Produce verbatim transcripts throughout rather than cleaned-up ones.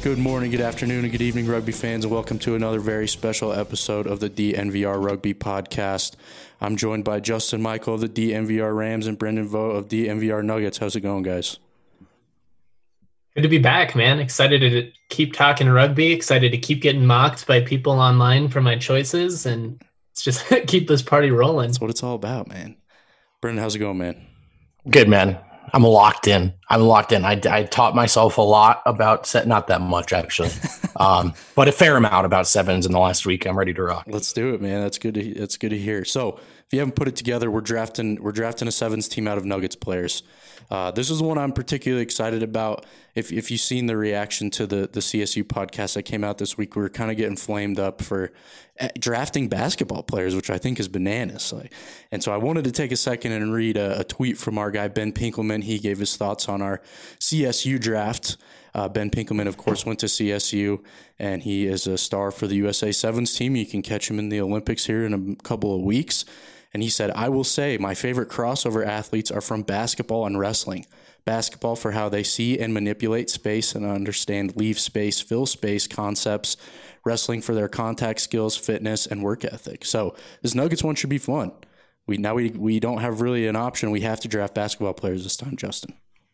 Good morning, good afternoon, and good evening, rugby fans, and welcome to another very special episode of the D N V R Rugby Podcast. I'm joined by Justin Michael of the D N V R Rams and Brendan Vogt of D N V R Nuggets. How's it going, guys? Good to be back, man. Excited to keep talking rugby, excited to keep getting mocked by people online for my choices, and let's just keep this party rolling. That's what it's all about, man. Brendan, how's it going, man? Good, man. I'm locked in. I'm locked in. I, I taught myself a lot about set, not that much actually, um, but a fair amount about sevens in the last week. I'm ready to rock. Let's do it, man. That's good. To, that's good to hear. So, if you haven't put it together, we're drafting we're drafting a sevens team out of Nuggets players. Uh, this is one I'm particularly excited about. If if you've seen the reaction to the the C S U podcast that came out this week, we were kind of getting flamed up for drafting basketball players, which I think is bananas. Like, and so I wanted to take a second and read a, a tweet from our guy Ben Pinkelman. He gave his thoughts on our C S U draft. Uh, Ben Pinkelman, of course, went to C S U, and he is a star for the U S A Sevens team. You can catch him in the Olympics here in a couple of weeks. And he said, I will say my favorite crossover athletes are from basketball and wrestling. Basketball for how they see and manipulate space and understand leave space, fill space concepts. Wrestling for their contact skills, fitness, and work ethic. So this Nuggets one should be fun. We Now we, we don't have really an option. We have to draft basketball players this time, Justin.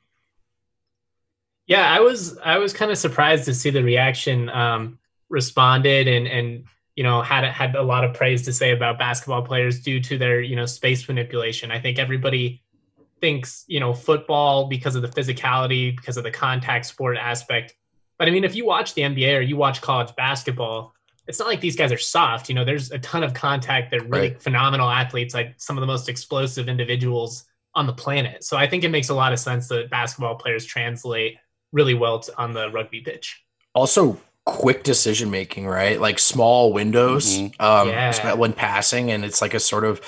Yeah, I was I was kind of surprised to see the reaction. Um, responded and and you know had had a lot of praise to say about basketball players due to their you know space manipulation. I think everybody thinks you know football because of the physicality, because of the contact sport aspect. But I mean, if you watch the N B A or you watch college basketball, it's not like these guys are soft. You know, there's a ton of contact. They're really Right. phenomenal athletes, like some of the most explosive individuals on the planet. So I think it makes a lot of sense that basketball players translate really well to, on the rugby pitch. Also, quick decision making, right? Like small windows Mhm. um, Yeah. when passing, and it's like a sort of,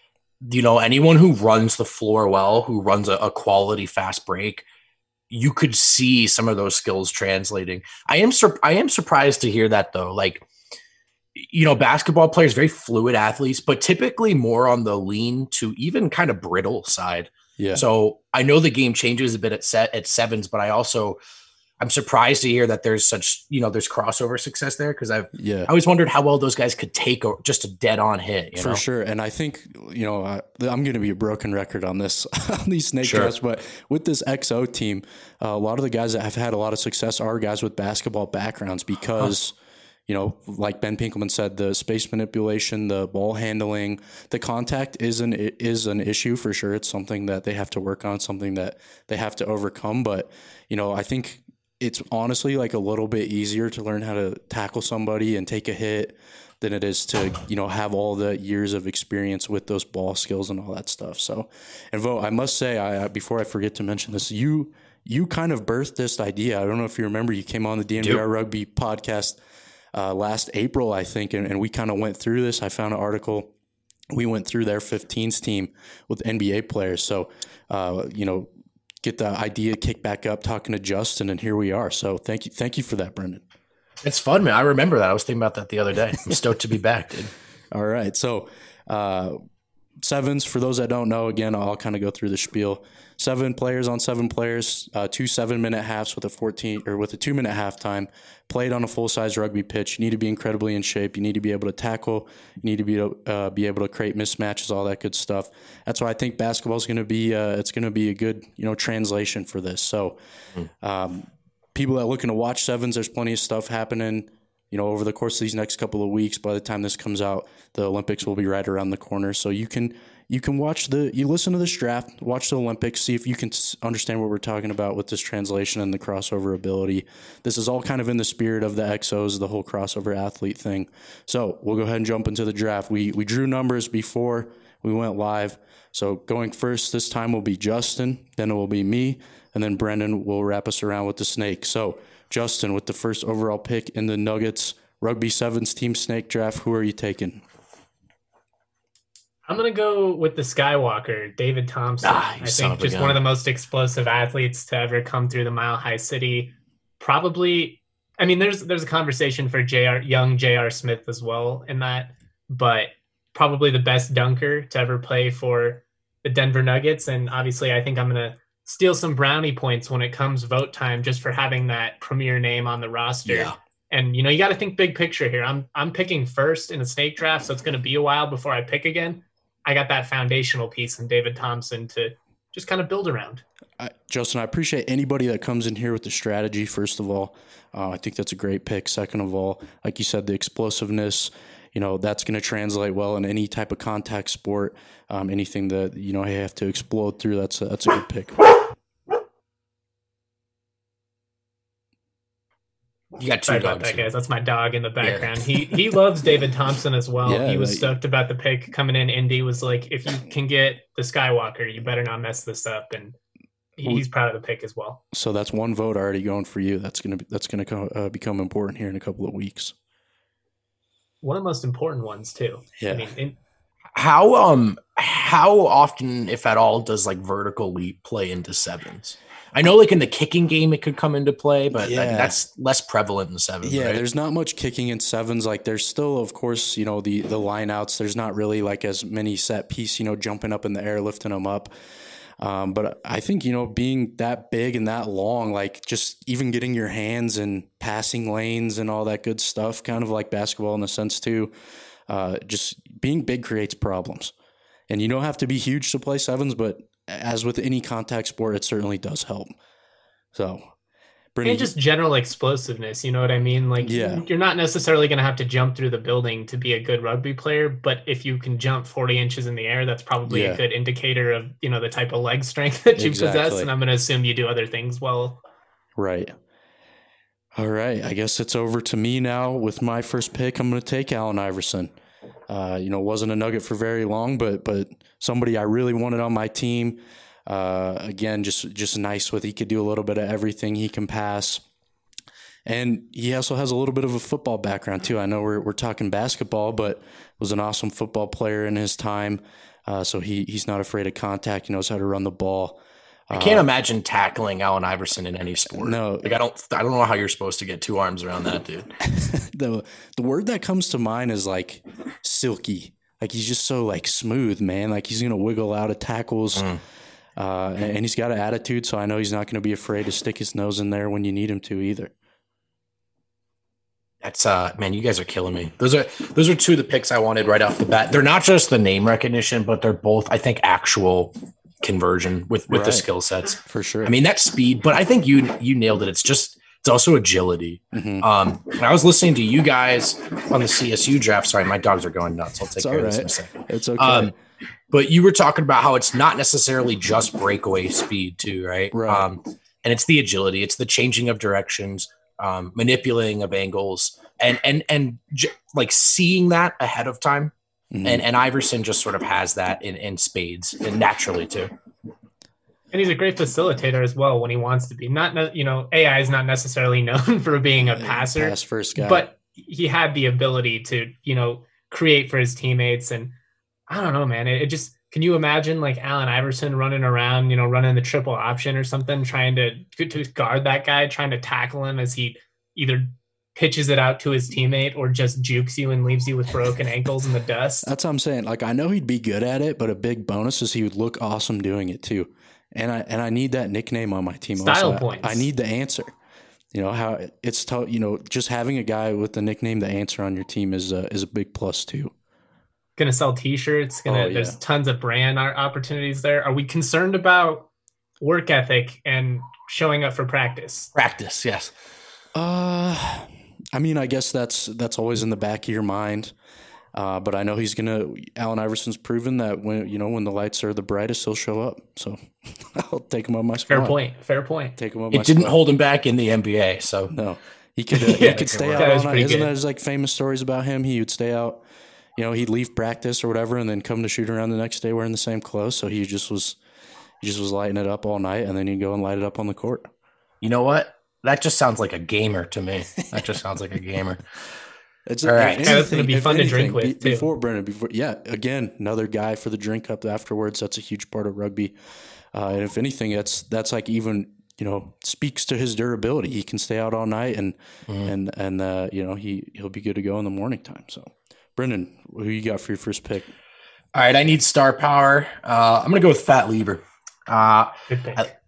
you know, anyone who runs the floor well, who runs a, a quality fast break, you could see some of those skills translating. I am sur- I am surprised to hear that though. Like, you know, basketball players, very fluid athletes, but typically more on the lean to even kind of brittle side. Yeah. So I know the game changes a bit at set at sevens, but I also I'm surprised to hear that there's such, you know, there's crossover success there, because I've yeah. I always wondered how well those guys could take a, just a dead on hit. You For know? sure. And I think, you know, I, I'm going to be a broken record on this, on these snake Sure. drafts, but with this X O team, uh, a lot of the guys that have had a lot of success are guys with basketball backgrounds because, huh. you know, like Ben Pinkelman said, the space manipulation, the ball handling, the contact is an, is an issue for sure. It's something that they have to work on, something that they have to overcome. But, you know, I think it's honestly like a little bit easier to learn how to tackle somebody and take a hit than it is to, you know, have all the years of experience with those ball skills and all that stuff. So, and Vogt, I must say, I, before I forget to mention this, you, you kind of birthed this idea. I don't know if you remember, you came on the D N V R Rugby podcast uh, last April, I think, and, and we kind of went through this. I found an article. We went through their fifteens team with N B A players. So, uh, you know, get the idea kicked back up, talking to Justin, and here we are. So thank you, thank you for that, Brendan. It's fun, man. I remember that. I was thinking about that the other day. I'm stoked to be back, dude. All right, so uh, sevens, for those that don't know, again, I'll kind of go through the spiel. Seven players on seven players, uh, two seven-minute halves with a fourteen or with a two-minute halftime. Played on a full-size rugby pitch. You need to be incredibly in shape. You need to be able to tackle. You need to be uh, be able to create mismatches, all that good stuff. That's why I think basketball is going to be uh, it's going to be a good you know translation for this. So, um, people that are looking to watch sevens, there's plenty of stuff happening. You know, over the course of these next couple of weeks. By the time this comes out, the Olympics will be right around the corner. So you can. You can watch the, you listen to this draft, watch the Olympics, see if you can understand what we're talking about with this translation and the crossover ability. This is all kind of in the spirit of the X Os, the whole crossover athlete thing. So we'll go ahead and jump into the draft. We we drew numbers before we went live. So going first this time will be Justin, then it will be me, and then Brendan will wrap us around with the snake. So Justin, with the first overall pick in the Nuggets Rugby Sevens Team Snake Draft, who are you taking? I'm going to go with the Skywalker, David Thompson. Ah, you I son think of a just gun. one of the most explosive athletes to ever come through the Mile High City. Probably, I mean, there's there's a conversation for J R young J R Smith as well in that, but probably the best dunker to ever play for the Denver Nuggets. And obviously, I think I'm going to steal some brownie points when it comes vote time just for having that premier name on the roster. Yeah. And, you know, you got to think big picture here. I'm I'm picking first in a snake draft, so it's going to be a while before I pick again. I got that foundational piece in David Thompson to just kind of build around. I, Justin, I appreciate anybody that comes in here with the strategy, first of all. Uh, I think that's a great pick. Second of all, like you said, the explosiveness, you know, that's going to translate well in any type of contact sport. Um, anything that, you know, you have to explode through, that's a, that's a good pick. You got two Sorry dogs. about that, guys. That's my dog in the background. Yeah. He he loves David Thompson as well. Yeah, he was like, stoked about the pick coming in. Indy was like, if you can get the Skywalker, you better not mess this up. And he's proud of the pick as well. So that's one vote already going for you. That's gonna be, that's gonna co- uh, become important here in a couple of weeks. One of the most important ones too. Yeah. I mean, in, how um how often, if at all, does like vertical leap play into sevens? I know, like in the kicking game, it could come into play, but yeah. that, that's less prevalent in sevens. Yeah, right? There's not much kicking in sevens. Like there's still, of course, you know, the the line outs. There's not really like as many set piece, you know, jumping up in the air, lifting them up. Um, but I think, you know, being that big and that long, like just even getting your hands in passing lanes and all that good stuff, kind of like basketball in a sense too. Uh, just being big creates problems, and you don't have to be huge to play sevens, but as with any contact sport, it certainly does help. So, Brittany, and just general explosiveness, you know what I mean? Like, yeah. you're not necessarily going to have to jump through the building to be a good rugby player, but if you can jump forty inches in the air, that's probably yeah. a good indicator of, you know, the type of leg strength that you exactly. possess. And I'm going to assume you do other things well. Right. All right. I guess it's over to me now with my first pick. I'm going to take Allen Iverson. Uh, you know, wasn't a Nugget for very long, but but somebody I really wanted on my team. Uh, again, just just nice with he could do a little bit of everything. He can pass, and he also has a little bit of a football background too. I know we're we're talking basketball, but was an awesome football player in his time. Uh, so he he's not afraid of contact. He knows how to run the ball. I can't uh, imagine tackling Allen Iverson in any sport. No, like I don't, I don't know how you're supposed to get two arms around that dude. the The word that comes to mind is like silky. Like he's just so like smooth, man. Like he's gonna wiggle out of tackles, mm. uh, and, and he's got an attitude. So I know he's not gonna be afraid to stick his nose in there when you need him to either. That's uh, man, you guys are killing me. Those are those are two of the picks I wanted right off the bat. They're not just the name recognition, but they're both, I think, actual conversion with, with right. the skill sets for sure. I mean, that's speed, but I think you you nailed it. It's just it's also agility. Mm-hmm. Um, and I was listening to you guys on the C S U draft. Sorry, my dogs are going nuts. I'll take it's care right. of this in a second. It's okay. Um, but you were talking about how it's not necessarily just breakaway speed too, right? Right. Um, and it's the agility, it's the changing of directions, um, manipulating of angles, and and and j- like seeing that ahead of time. Mm-hmm. And and Iverson just sort of has that in, in spades and naturally too. And he's a great facilitator as well when he wants to be. Not, you know, A I is not necessarily known for being a passer, pass first guy, but he had the ability to, you know, create for his teammates. And I don't know, man, it, it just, can you imagine like Allen Iverson running around, you know, running the triple option or something, trying to, to guard that guy, trying to tackle him as he either pitches it out to his teammate or just jukes you and leaves you with broken ankles in the dust. That's what I'm saying. Like, I know he'd be good at it, but a big bonus is he would look awesome doing it too. And I and I need that nickname on my team. Style also. points. I, I need the answer. You know how it's t- you know just having a guy with the nickname the answer on your team is a, is a big plus too. Gonna sell T-shirts. Gonna oh, yeah. There's tons of brand opportunities there. Are we concerned about work ethic and showing up for practice? Practice, yes. Uh, I mean, I guess that's that's always in the back of your mind. Uh, but I know he's gonna. Allen Iverson's proven that when you know when the lights are the brightest, he'll show up. So I'll take him on my spot. Fair point. Fair point. Take him on it my didn't spot. hold him back in the N B A. So no, he could. Uh, yeah, he could stay out all night. Isn't there like famous stories about him? He would stay out. You know, he'd leave practice or whatever, and then come to shoot around the next day wearing the same clothes. So he just was, he just was lighting it up all night, and then he'd go and light it up on the court. You know what? That just sounds like a gamer to me. That just sounds like a gamer. It's all right. Anything, that's going to be fun anything, to drink with be, too. Before Brennan, before yeah, again, another guy for the drink up afterwards. That's a huge part of rugby. Uh, and if anything, that's that's like even you know speaks to his durability. He can stay out all night, and mm. and and uh, you know he he'll be good to go in the morning time. So, Brennan, who you got for your first pick? All right, I need star power. Uh, I'm going to go with Fat Lever. Uh, I,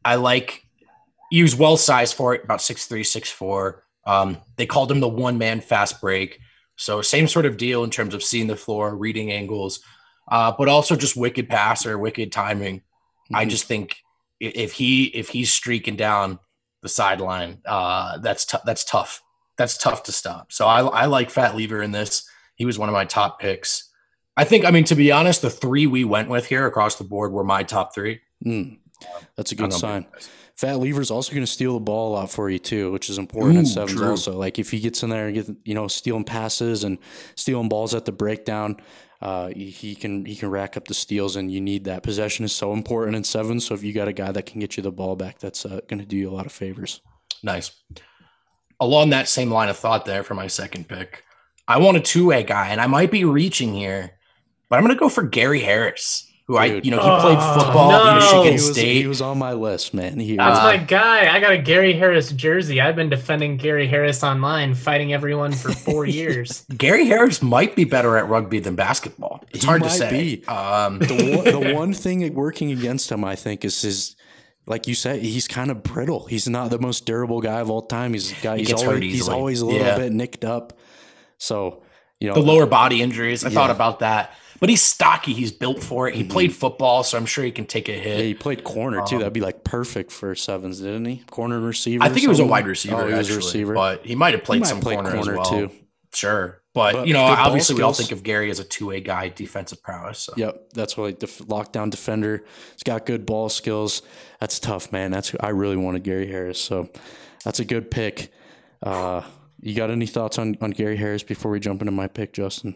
I like he was well sized for it, about six three, six four. Um, they called him the one man fast break. So same sort of deal in terms of seeing the floor, reading angles, uh, but also just wicked passer, wicked timing. Mm-hmm. I just think if he if he's streaking down the sideline, uh, that's t- that's tough. That's tough to stop. So I, I like Fat Lever in this. He was one of my top picks. I think, I mean, to be honest, the three we went with here across the board were my top three. Mm, that's a good sign. Fat Lever's also going to steal the ball a lot for you too, which is important Ooh, in sevens true. also. Like if he gets in there and get, you know, stealing passes and stealing balls at the breakdown, uh, he can he can rack up the steals, and you need that. Possession is so important in sevens. So if you got a guy that can get you the ball back, that's uh, going to do you a lot of favors. Nice. Along that same line of thought there for my second pick, I want a two-way guy, and I might be reaching here, but I'm going to go for Gary Harris, who Dude. I, you know, he oh, played football no. at Michigan he was, State. He was on my list, man. He, That's uh, my guy. I got a Gary Harris jersey. I've been defending Gary Harris online, fighting everyone for four years. Gary Harris might be better at rugby than basketball. It's he hard might to say. Be. Um, the, one, the one thing working against him, I think, is his. Like you said, he's kind of brittle. He's not the most durable guy of all time. He's a guy. He's always, he's always a little yeah. bit nicked up. So, you know, the lower body injuries. I yeah. thought about that, but he's stocky. He's built for it. He mm-hmm. played football, so I'm sure he can take a hit. Yeah, he played corner too. Um, That'd be like perfect for sevens, didn't he? Corner receiver. I think he was a wide receiver. Oh, he was actually, a receiver, but he might have played might some play corner, corner as well. too. Sure. But, but, you know, obviously we all think of Gary as a two-way guy, defensive prowess. So. Yep, that's what like, the lockdown defender. He's got good ball skills. That's tough, man. That's I really wanted Gary Harris, so that's a good pick. Uh, you got any thoughts on, on Gary Harris before we jump into my pick, Justin?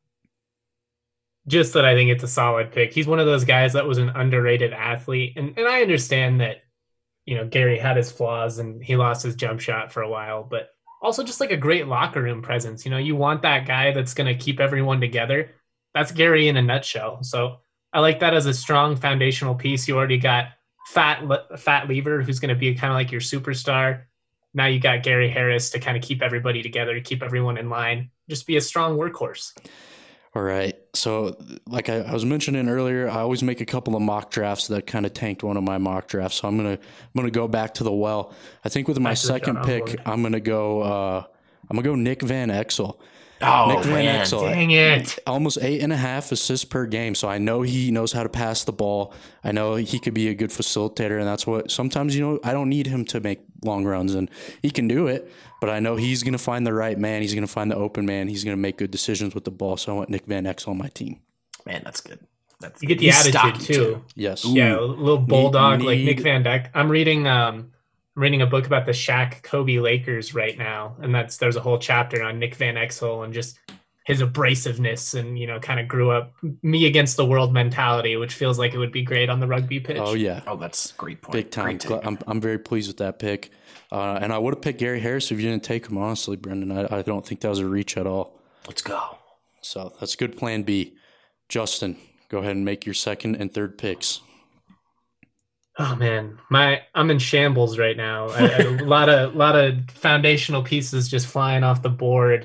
Just that I think it's a solid pick. He's one of those guys that was an underrated athlete, and, and I understand that, you know, Gary had his flaws and he lost his jump shot for a while, but also just like a great locker room presence. You know, you want that guy that's going to keep everyone together. That's Gary in a nutshell. So I like that as a strong foundational piece. You already got Fat Fat Lever, who's going to be kind of like your superstar. Now you got Gary Harris to kind of keep everybody together, keep everyone in line, just be a strong workhorse. All right. So like I, I was mentioning earlier, I always make a couple of mock drafts that kind of tanked one of my mock drafts. So I'm going to, I'm going to go back to the well. I think with my That's second pick, I'm going to go, uh, I'm going to go Nick Van Exel. Oh, Nick Van man. Exel, dang it. Almost eight and a half assists per game. So I know he knows how to pass the ball. I know he could be a good facilitator. And that's what sometimes, you know, I don't need him to make long runs, and he can do it. But I know he's going to find the right man. He's going to find the open man. He's going to make good decisions with the ball. So I want Nick Van Exel on my team. Man, that's good. That's you get the he's attitude too. too. Yes. Ooh. Yeah, a little bulldog need, like need. Nick Van Dyke. I'm reading um I'm reading a book about the Shaq Kobe Lakers right now, and that's there's a whole chapter on Nick Van Exel and just his abrasiveness, and you know, kind of grew up me against the world mentality, which feels like it would be great on the rugby pitch. Oh yeah. Oh, that's a great point. Big time. I'm I'm very pleased with that pick. Uh, and I would have picked Gary Harris if you didn't take him, honestly, Brendan. I, I don't think that was a reach at all. Let's go. So that's good plan B. Justin, go ahead and make your second and third picks. Oh man, my I'm in shambles right now. A, a lot of lot of foundational pieces just flying off the board.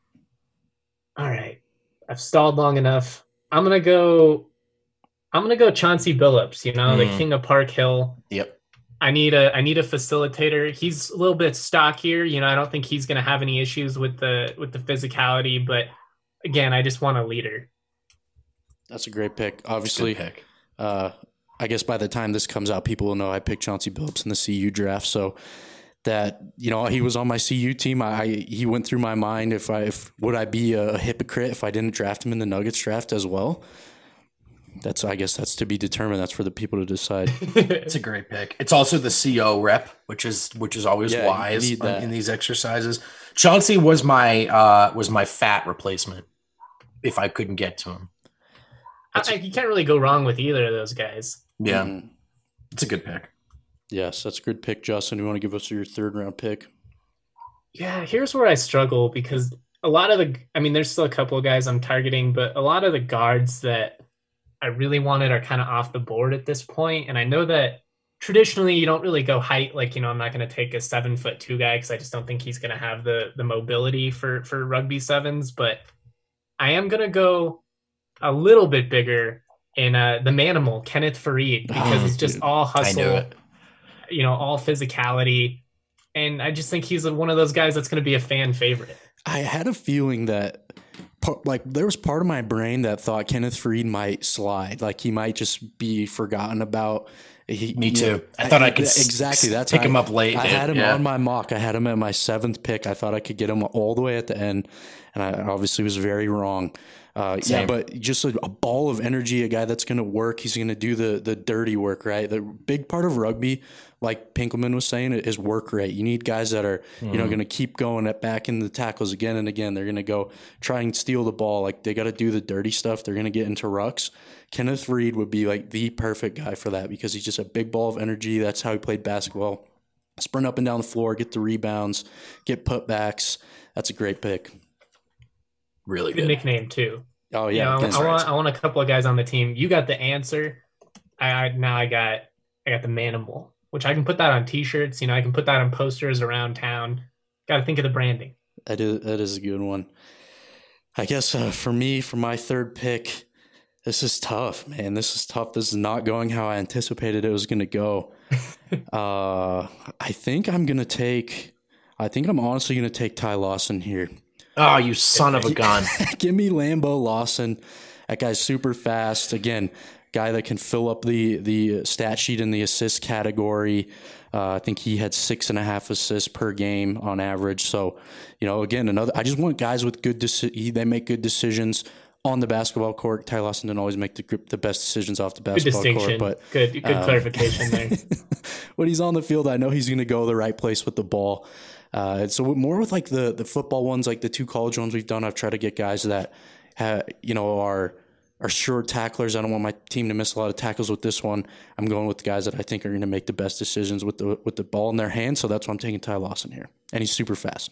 All right, I've stalled long enough. I'm gonna go. I'm gonna go Chauncey Billups. You know, mm. the king of Park Hill. Yep. I need a I need a facilitator. He's a little bit stockier. You know, I don't think he's gonna have any issues with the with the physicality. But again, I just want a leader. That's a great pick. Obviously, pick. Uh, I guess by the time this comes out, people will know I picked Chauncey Billups in the C U draft. So that, you know, he was on my C U team. I he went through my mind if I if would I be a hypocrite if I didn't draft him in the Nuggets draft as well. That's I guess that's to be determined. That's for the people to decide. It's a great pick. It's also the C O rep, which is which is always yeah, wise in these exercises. Chauncey was my uh, was my fat replacement if I couldn't get to him. I, you can't really go wrong with either of those guys. Yeah, mm-hmm. It's a good pick. Yes, that's a good pick, Justin. You want to give us your third round pick? Yeah, here's where I struggle because a lot of the, I mean, there's still a couple of guys I'm targeting, but a lot of the guards that I really wanted are kind of off the board at this point. And I know that traditionally you don't really go height. Like, you know, I'm not going to take a seven foot two guy because I just don't think he's going to have the the mobility for, for rugby sevens. But I am going to go a little bit bigger in uh, the Manimal, Kenneth Farid, because oh, it's just dude. all hustle. you know, all physicality. And I just think he's one of those guys that's going to be a fan favorite. I had a feeling that, like, there was part of my brain that thought Kenneth Faried might slide. Like, he might just be forgotten about. He, Me too. Know, I thought I, I could exactly. That's pick I, him up late. I dude. had him yeah. on my mock. I had him at my seventh pick. I thought I could get him all the way at the end, and I obviously was very wrong. Uh, yeah, but just a, a ball of energy, a guy that's going to work. He's going to do the the dirty work, right? The big part of rugby, like Pinkelman was saying, is work rate. You need guys that are, mm-hmm. you know, going to keep going at back in the tackles again and again. They're going to go try and steal the ball. Like, they got to do the dirty stuff. They're going to get into rucks. Kenneth Faried would be like the perfect guy for that because he's just a big ball of energy. That's how he played basketball. Sprint up and down the floor, get the rebounds, get putbacks. That's a great pick. Really good. Good nickname too. Oh yeah, you know, I want I want a couple of guys on the team. You got the answer. I, I now I got I got the Manimal, which I can put that on T-shirts. You know, I can put that on posters around town. Got to think of the branding. That is that is a good one. I guess uh, for me, for my third pick, this is tough, man. This is tough. This is not going how I anticipated it was going to go. uh, I think I'm going to take. I think I'm honestly going to take Ty Lawson here. Oh, you son of a gun. Give me Lambo Lawson. That guy's super fast. Again, guy that can fill up the the stat sheet in the assist category. Uh, I think he had six and a half assists per game on average. So, you know, again, another. I just want guys with good. Deci- they make good decisions on the basketball court. Ty Lawson didn't always make the the best decisions off the basketball good court, but good good um, clarification there. When he's on the field, I know he's going to go the right place with the ball. Uh, so more with like the, the football ones, like the two college ones we've done, I've tried to get guys that have, you know, are are sure tacklers. I don't want my team to miss a lot of tackles with this one. I'm going with the guys that I think are going to make the best decisions with the with the ball in their hands. So that's why I'm taking Ty Lawson here, and he's super fast.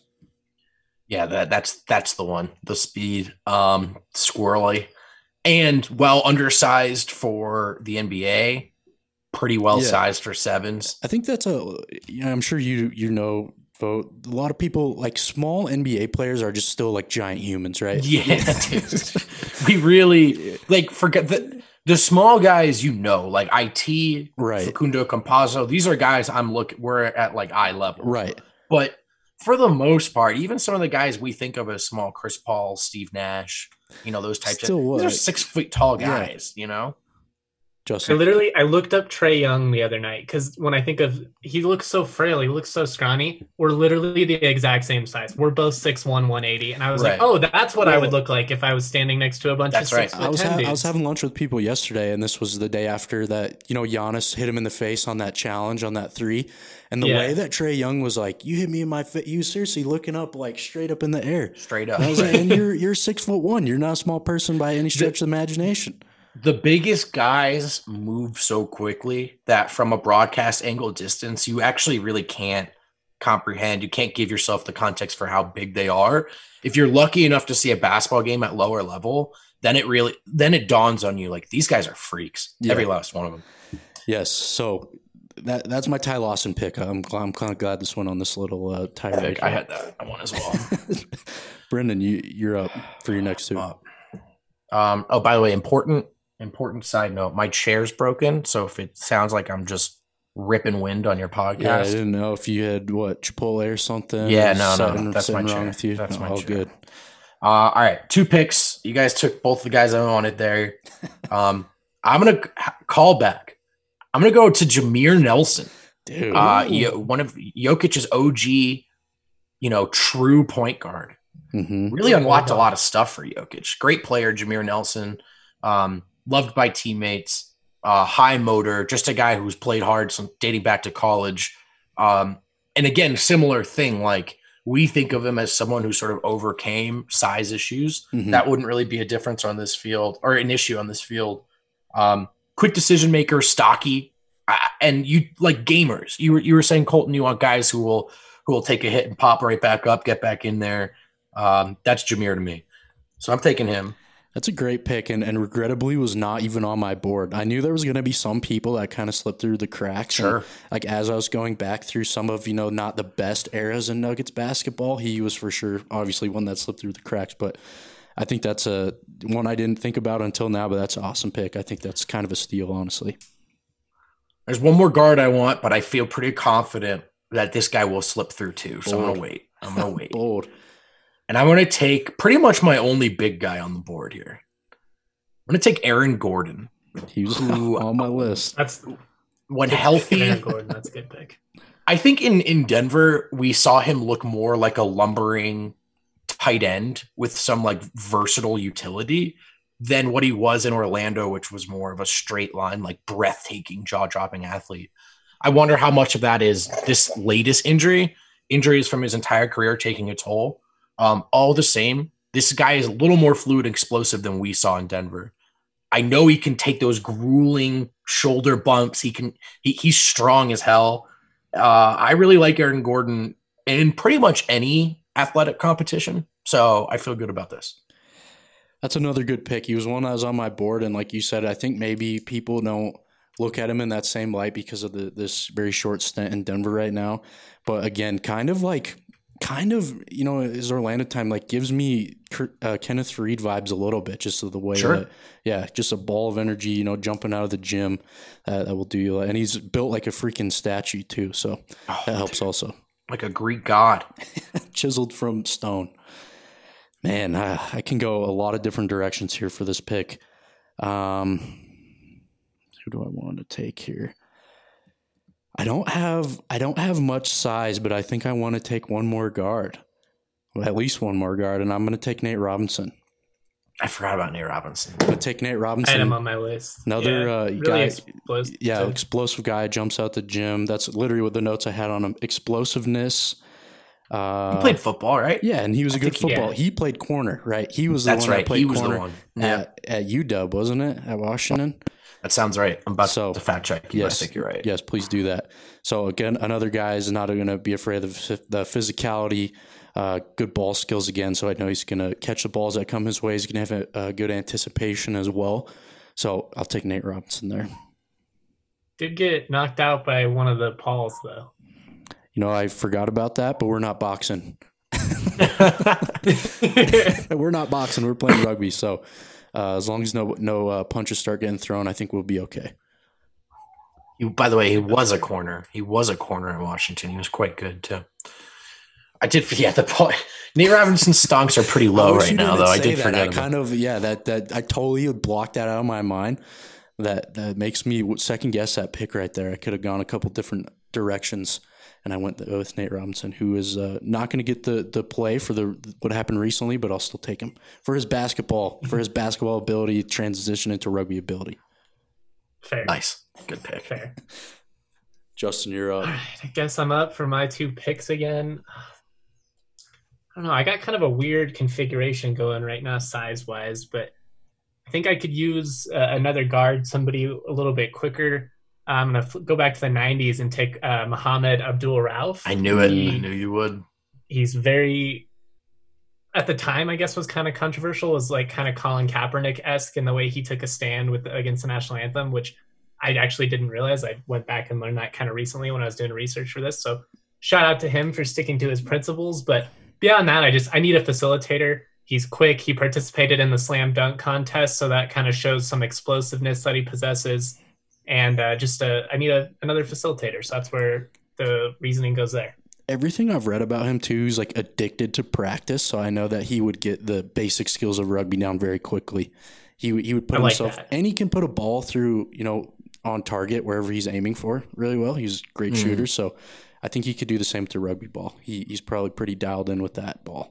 Yeah, that that's that's the one. The speed, um, squirrely, and well undersized for the N B A. Pretty well yeah. sized for sevens. I think that's a. Yeah, I'm sure you you know. Vote. A lot of people, like small N B A players, are just still like giant humans, right? Yeah, dude. We really like forget the the small guys, you know, like I T, right? Facundo Campazzo. These are guys I'm looking. We're at like eye level, right? But for the most part, even some of the guys we think of as small, Chris Paul, Steve Nash, you know, those types still of these are six foot tall guys, yeah. you know. Justin. I literally, I looked up Trae Young the other night because when I think of, he looks so frail, he looks so scrawny. We're literally the exact same size. We're both six one, one eighty. And I was right. like, oh, that's what well, I would look like if I was standing next to a bunch that's of right. six I was, ha- I was having lunch with people yesterday, and this was the day after that, you know, Giannis hit him in the face on that challenge on that three. And the yeah. way that Trae Young was like, you hit me in my face, you seriously looking up like straight up in the air. Straight up. And I was like, and you're, you're six foot one. You're not a small person by any stretch the, of the imagination. The biggest guys move so quickly that from a broadcast angle distance, you actually really can't comprehend. You can't give yourself the context for how big they are. If you're lucky enough to see a basketball game at lower level, then it really, then it dawns on you like these guys are freaks. Yeah. Every last one of them. Yes. So that that's my Ty Lawson pick. I'm I'm kind of glad this went on this little uh, tirade. I had that one as well. Brendan, you you're up for your next two. Uh, um. Oh, by the way, important. Important side note, my chair's broken, so if it sounds like I'm just ripping wind on your podcast. Yeah, I didn't know if you had, what, Chipotle or something? Yeah, no, no, no. That's my chair. With you. That's oh, my all chair. good. Uh, all right, two picks. You guys took both the guys I wanted there. Um, I'm going to call back. I'm going to go to Jameer Nelson. Dude. Uh, one of Jokic's O G, you know, true point guard. Mm-hmm. Really unlocked a lot of stuff for Jokic. Great player, Jameer Nelson. Um, loved by teammates, uh, high motor, just a guy who's played hard some dating back to college. Um, and again, similar thing, like we think of him as someone who sort of overcame size issues. Mm-hmm. That wouldn't really be a difference on this field or an issue on this field. Um, quick decision maker, stocky, uh, and you like gamers. You were, you were saying, Colton, you want guys who will, who will take a hit and pop right back up, get back in there. Um, that's Jameer to me. So I'm taking him. That's a great pick, and, and regrettably was not even on my board. I knew there was going to be some people that kind of slipped through the cracks. Sure. And, like, as I was going back through some of, you know, not the best eras in Nuggets basketball, he was for sure, obviously, one that slipped through the cracks. But I think that's a one I didn't think about until now, but that's an awesome pick. I think that's kind of a steal, honestly. There's one more guard I want, but I feel pretty confident that this guy will slip through too. So Bold. I'm gonna wait. I'm gonna wait. Bold. And I'm gonna take pretty much my only big guy on the board here. I'm gonna take Aaron Gordon. He was who, on my list. That's when healthy. Aaron Gordon, that's a good pick. I think in, in Denver, we saw him look more like a lumbering tight end with some like versatile utility than what he was in Orlando, which was more of a straight line, like breathtaking, jaw-dropping athlete. I wonder how much of that is this latest injury, injuries from his entire career taking a toll. Um, all the same, this guy is a little more fluid and explosive than we saw in Denver. I know he can take those grueling shoulder bumps. He can. He, he's strong as hell. Uh, I really like Aaron Gordon in pretty much any athletic competition, so I feel good about this. That's another good pick. He was one that was on my board, and like you said, I think maybe people don't look at him in that same light because of the, this very short stint in Denver right now. But again, kind of like, kind of, you know, his Orlando time like gives me uh, Kenneth Reed vibes a little bit, just of the way sure. that, yeah, just a ball of energy, you know, jumping out of the gym uh, that will do you. And he's built like a freaking statue too, so oh, that helps dude. Also. Like a Greek god, chiseled from stone. Man, I, I can go a lot of different directions here for this pick. Um, who do I want to take here? I don't have I don't have much size, but I think I want to take one more guard, well, at least one more guard, and I'm going to take Nate Robinson. I forgot about Nate Robinson. I'm going to take Nate Robinson. I had him on my list. Another yeah, uh, really guy, explosive. yeah, explosive guy, jumps out the gym. That's literally what the notes I had on him: explosiveness. Uh, he played football, right? Yeah, and he was a I good football. He, he played corner, right? He was the That's one right. that played he was corner the one. Yeah. at, at U W, wasn't it? At Washington. That sounds right. I'm about so, to fact check you. Yes, I think you're right. Yes, please do that. So again, another guy is not going to be afraid of the physicality, uh, good ball skills again. So I know he's going to catch the balls that come his way. He's going to have a, a good anticipation as well. So I'll take Nate Robinson there. Did get knocked out by one of the Pauls though. You know, I forgot about that, but we're not boxing. We're not boxing. We're playing rugby. So uh, as long as no no uh, punches start getting thrown, I think we'll be okay. He, by the way, he was a corner. He was a corner in Washington. He was quite good too. I did forget the point. Nate Robinson's stonks are pretty low right now, though. I did that. forget. I kind of yeah. That that I totally blocked that out of my mind. That that makes me second guess that pick right there. I could have gone a couple different directions. And I went with Nate Robinson, who is uh, not going to get the the play for the what happened recently, but I'll still take him for his basketball, for his basketball ability, transition into rugby ability. Fair. Nice. Good pick. Fair. Justin, you're up. All right, I guess I'm up for my two picks again. I don't know. I got kind of a weird configuration going right now, size-wise, but I think I could use uh, another guard, somebody a little bit quicker. I'm going to go back to the nineties and take uh, Mohamed Abdul-Rauf. I knew it. He, I knew you would. He's very, at the time, I guess, was kind of controversial, was like kind of Colin Kaepernick-esque in the way he took a stand with against the national anthem, which I actually didn't realize. I went back and learned that kind of recently when I was doing research for this. So shout out to him for sticking to his principles. But beyond that, I just, I need a facilitator. He's quick. He participated in the slam dunk contest, so that kind of shows some explosiveness that he possesses. And uh, just uh, I need a, another facilitator. So that's where the reasoning goes there. Everything I've read about him, too, he's like addicted to practice. So I know that he would get the basic skills of rugby down very quickly. He, he would put I like himself that. – and he can put a ball through, you know, on target wherever he's aiming for really well. He's a great mm. shooter. So I think he could do the same with the rugby ball. He, he's probably pretty dialed in with that ball.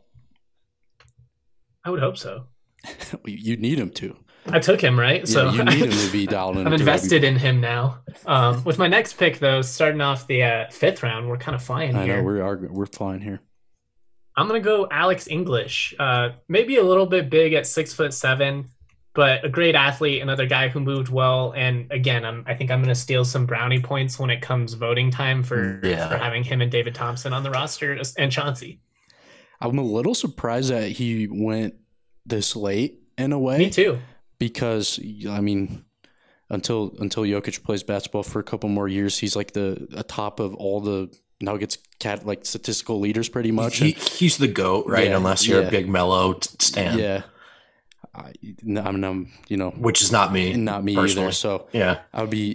I would hope so. You need him to. I took him, right? Yeah, so you need him to be dialed in. I'm invested in him now. Um, with my next pick, though, starting off the uh, fifth round, we're kind of flying I here. know, we are, we're flying here. I'm going to go Alex English. Uh, maybe a little bit big at six foot seven, but a great athlete, another guy who moved well. And again, I'm, I think I'm going to steal some brownie points when it comes voting time for, yeah. for having him and David Thompson on the roster and Chauncey. I'm a little surprised that he went this late in a way. Me too. Because, I mean, until until Jokic plays basketball for a couple more years, he's like the atop of all the Nuggets cat like statistical leaders pretty much. He, he's the GOAT, right? Yeah, Unless you're yeah. a big Melo stan. Yeah. I, I mean, I'm, you know. Which is not me. Not me personally. either. So yeah. I would be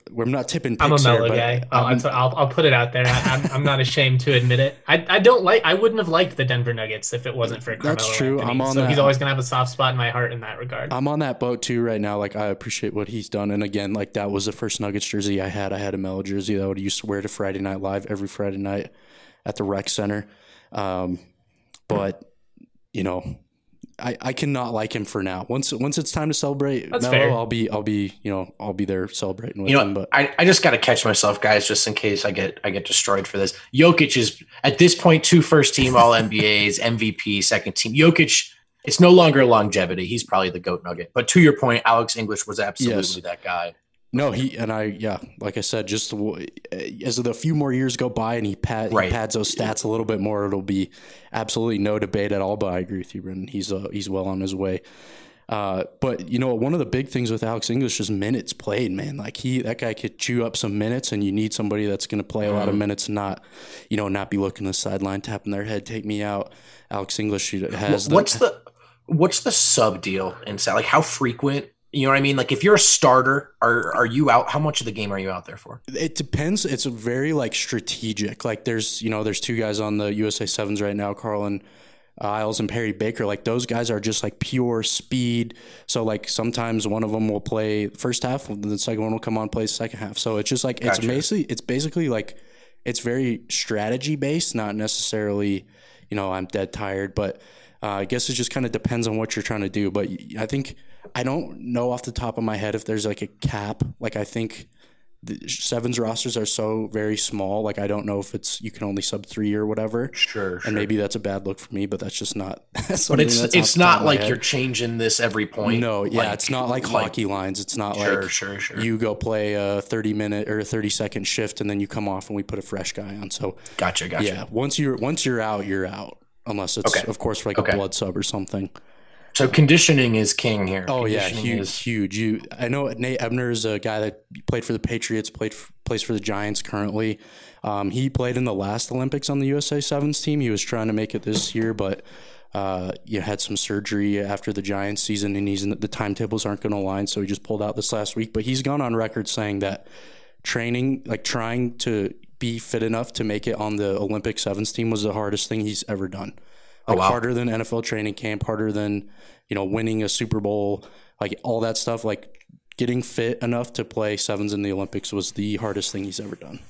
we're not tipping picks I'm a mellow here, guy. but I'll, I'm- I'll, I'll put it out there. I, I'm, I'm not ashamed to admit it. I, I don't like. I wouldn't have liked the Denver Nuggets if it wasn't for Carmelo That's true. Anthony. I'm on so that. he's always gonna have a soft spot in my heart in that regard. I'm on that boat too right now. Like I appreciate what he's done, and again, like that was the first Nuggets jersey I had. I had a Melo jersey that I would used to wear to Friday Night Live every Friday night at the rec center. Um, but you know, I, I cannot like him for now. Once once it's time to celebrate That's Melo, fair. I'll be I'll be you know I'll be there celebrating with You know, him. But I, I just got to catch myself, guys, just in case I get I get destroyed for this. Jokic is at this point two first team All N B As, M V P, second team. Jokic, it's no longer longevity. He's probably the GOAT Nugget. But to your point, Alex English was absolutely Yes. that guy. no, he and I yeah, like I said, just w- as the few more years go by and he, pad, Right. he pads those stats a little bit more, it'll be absolutely no debate at all. But I agree with you, Brendan. He's uh, he's well on his way. Uh, but you know, one of the big things with Alex English is minutes played, man. Like he, that guy could chew up some minutes, and you need somebody that's going to play a lot of minutes, and not, you know, not be looking to the sideline, tapping their head, take me out. Alex English has. What's the what's the sub deal inside? Like how frequent? You know what I mean? Like if you're a starter, are are you out? How much of the game are you out there for? It depends. It's a very like strategic. Like there's, you know, there's two guys on the U S A Sevens right now, Carlin Isles and Perry Baker. Like those guys are just like pure speed. So like sometimes one of them will play first half, and the second one will come on play second half. So it's just like it's Gotcha. basically it's basically like it's very strategy based, not necessarily, you know, I'm dead tired, but uh, I guess it just kind of depends on what you're trying to do. But I think I don't know off the top of my head if there's like a cap. Like I think the Sevens rosters are so very small. Like I don't know if it's you can only sub three or whatever. Sure, And maybe that's a bad look for me, but that's just not. That's but something it's that's off it's the top not of my like head. you're changing this every point. No, yeah, Like- it's not like, like- hockey lines. It's not Sure, like sure, sure. you go play a thirty minute or a thirty second shift and then you come off and we put a fresh guy on. So Gotcha, gotcha. yeah, once you're once you're out, you're out. Unless it's Okay. of course for like Okay. a blood sub or something. So conditioning is king here. Oh yeah, Conditioning huge, is- huge. You, I know Nate Ebner is a guy that played for the Patriots, played f- plays for the Giants currently. Um, he played in the last Olympics on the U S A Sevens team. He was trying to make it this year, but uh, you had some surgery after the Giants season, and he's the timetables aren't going to align, so he just pulled out this last week. But he's gone on record saying that training, like trying to be fit enough to make it on the Olympic Sevens team, was the hardest thing he's ever done. Oh, Like wow. harder than N F L training camp, harder than, you know, winning a Super Bowl, like all that stuff. Like getting fit enough to play sevens in the Olympics was the hardest thing he's ever done.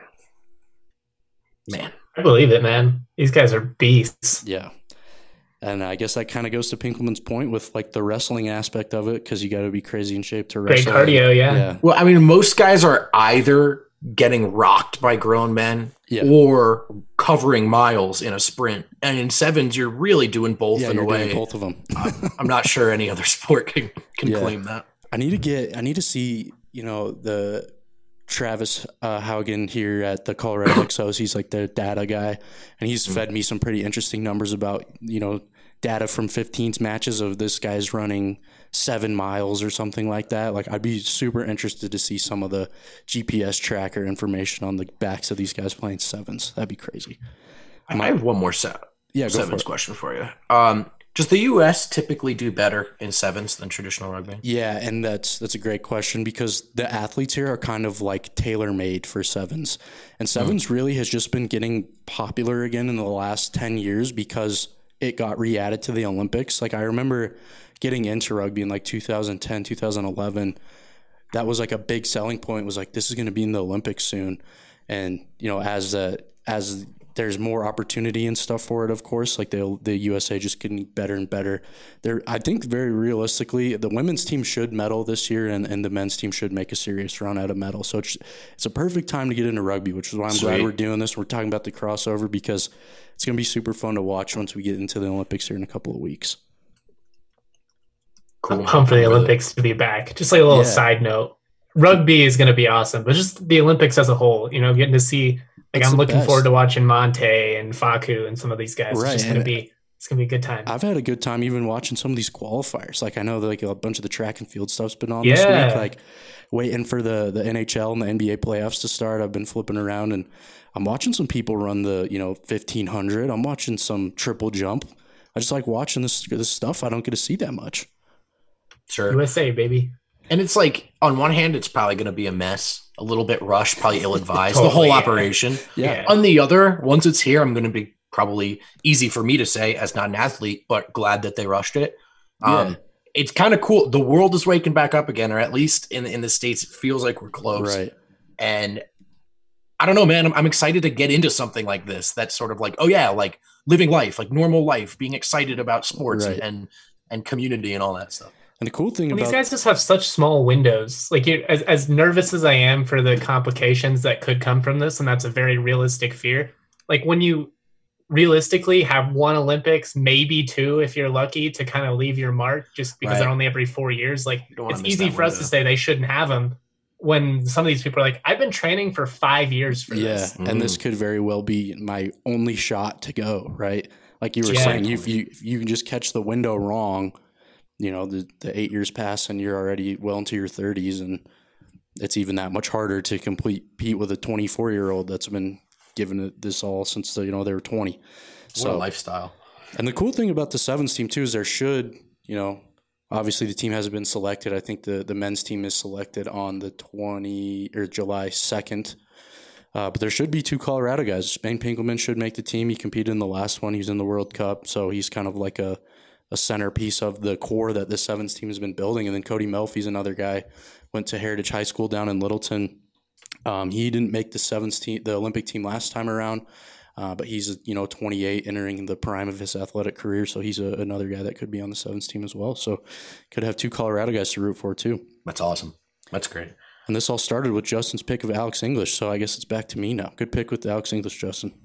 Man. I believe it, man. These guys are beasts. Yeah. And I guess that kind of goes to Pinkelman's point with like the wrestling aspect of it, because you got to be crazy in shape to Great wrestle. cardio, yeah. Yeah. Well, I mean, most guys are either getting rocked by grown men Yeah. or covering miles in a sprint. And in sevens, you're really doing both Yeah, in you're a way. doing both of them. I'm not sure any other sport can, can Yeah. claim that. I need to get, I need to see, you know, the Travis uh, Haugen here at the Colorado Exos. He's like the data guy, and he's fed me some pretty interesting numbers about, you know, data from fifteen's matches of this guy's running seven miles or something like that. Like I'd be super interested to see some of the G P S tracker information on the backs of these guys playing sevens. That'd be crazy. I I have one more set. Yeah, go for sevens it. question for you. Um, does the U S typically do better in sevens than traditional rugby? Yeah, and that's that's a great question, because the athletes here are kind of like tailor-made for sevens. And sevens really has just been getting popular again in the last ten years because it got re-added to the Olympics. Like I remember getting into rugby in like two thousand ten, two thousand eleven. That was like a big selling point, was like, this is going to be in the Olympics soon. And, you know, as uh, as there's more opportunity and stuff for it, of course, like the the U S A just getting better and better. There, I think very realistically, the women's team should medal this year, and, and the men's team should make a serious run at a medal. So it's it's a perfect time to get into rugby, which is why I'm glad Sweet. we're doing this. We're talking about the crossover because it's going to be super fun to watch once we get into the Olympics here in a couple of weeks. I'm pumped for the Really- Olympics to be back. Just like a little Yeah. side note. Rugby is going to be awesome, but just the Olympics as a whole, you know, getting to see, like, It's I'm the looking best. forward to watching Monte and Faku and some of these guys. Right, It's just going and- to be, it's going to be a good time. I've had a good time even watching some of these qualifiers. Like I know that like a bunch of the track and field stuff's been on this Yeah. week. Like waiting for the the N H L and the N B A playoffs to start. I've been flipping around and I'm watching some people run the, you know, fifteen hundred. I'm watching some triple jump. I just like watching this this stuff I don't get to see that much. Sure. U S A, baby. And it's like, on one hand, it's probably going to be a mess a little bit rushed, probably ill-advised, Totally, the whole yeah. operation. Yeah. On the other, once it's here, I'm going to be probably easy for me to say as not an athlete, but glad that they rushed it. Um, Yeah. It's kind of cool. The world is waking back up again, or at least in, in the States, it feels like we're close. Right. And I don't know, man. I'm, I'm excited to get into something like this. That's sort of like, oh yeah, like living life, like normal life, being excited about sports Right. and and community and all that stuff. And the cool thing And about these guys just have such small windows. Like, you, as as nervous as I am for the complications that could come from this, and that's a very realistic fear. Like, when you realistically have one Olympics, maybe two if you're lucky, to kind of leave your mark, just because Right. they're only every four years. Like, don't wanna it's miss easy that for us to window. say they shouldn't have them, when some of these people are like, I've been training for five years for yeah, this. and this could very well be my only shot to go, right? Like you were Yeah. saying, you you if you can just catch the window wrong, you know, the the eight years pass and you're already well into your thirties, and it's even that much harder to complete compete with a twenty-four year old that's been given it this all since the, you know they were twenty. What So a lifestyle. and the cool thing about the sevens team too is there should, you know, obviously the team hasn't been selected. I think the, the men's team is selected on the twenty or July second. Uh, but there should be two Colorado guys. Spain Pinkelman should make the team. He competed in the last one. He was in the World Cup. So he's kind of like a, a centerpiece of the core that the sevens team has been building. And then Cody Melfi's another guy, went to Heritage High School down in Littleton. Um, he didn't make the sevens team, the Olympic team last time around. Uh, but he's, you know, twenty-eight, entering the prime of his athletic career. So he's a, another guy that could be on the sevens team as well. So could have two Colorado guys to root for too. That's awesome. That's great. And this all started with Justin's pick of Alex English. So I guess it's back to me now. Good pick with Alex English, Justin.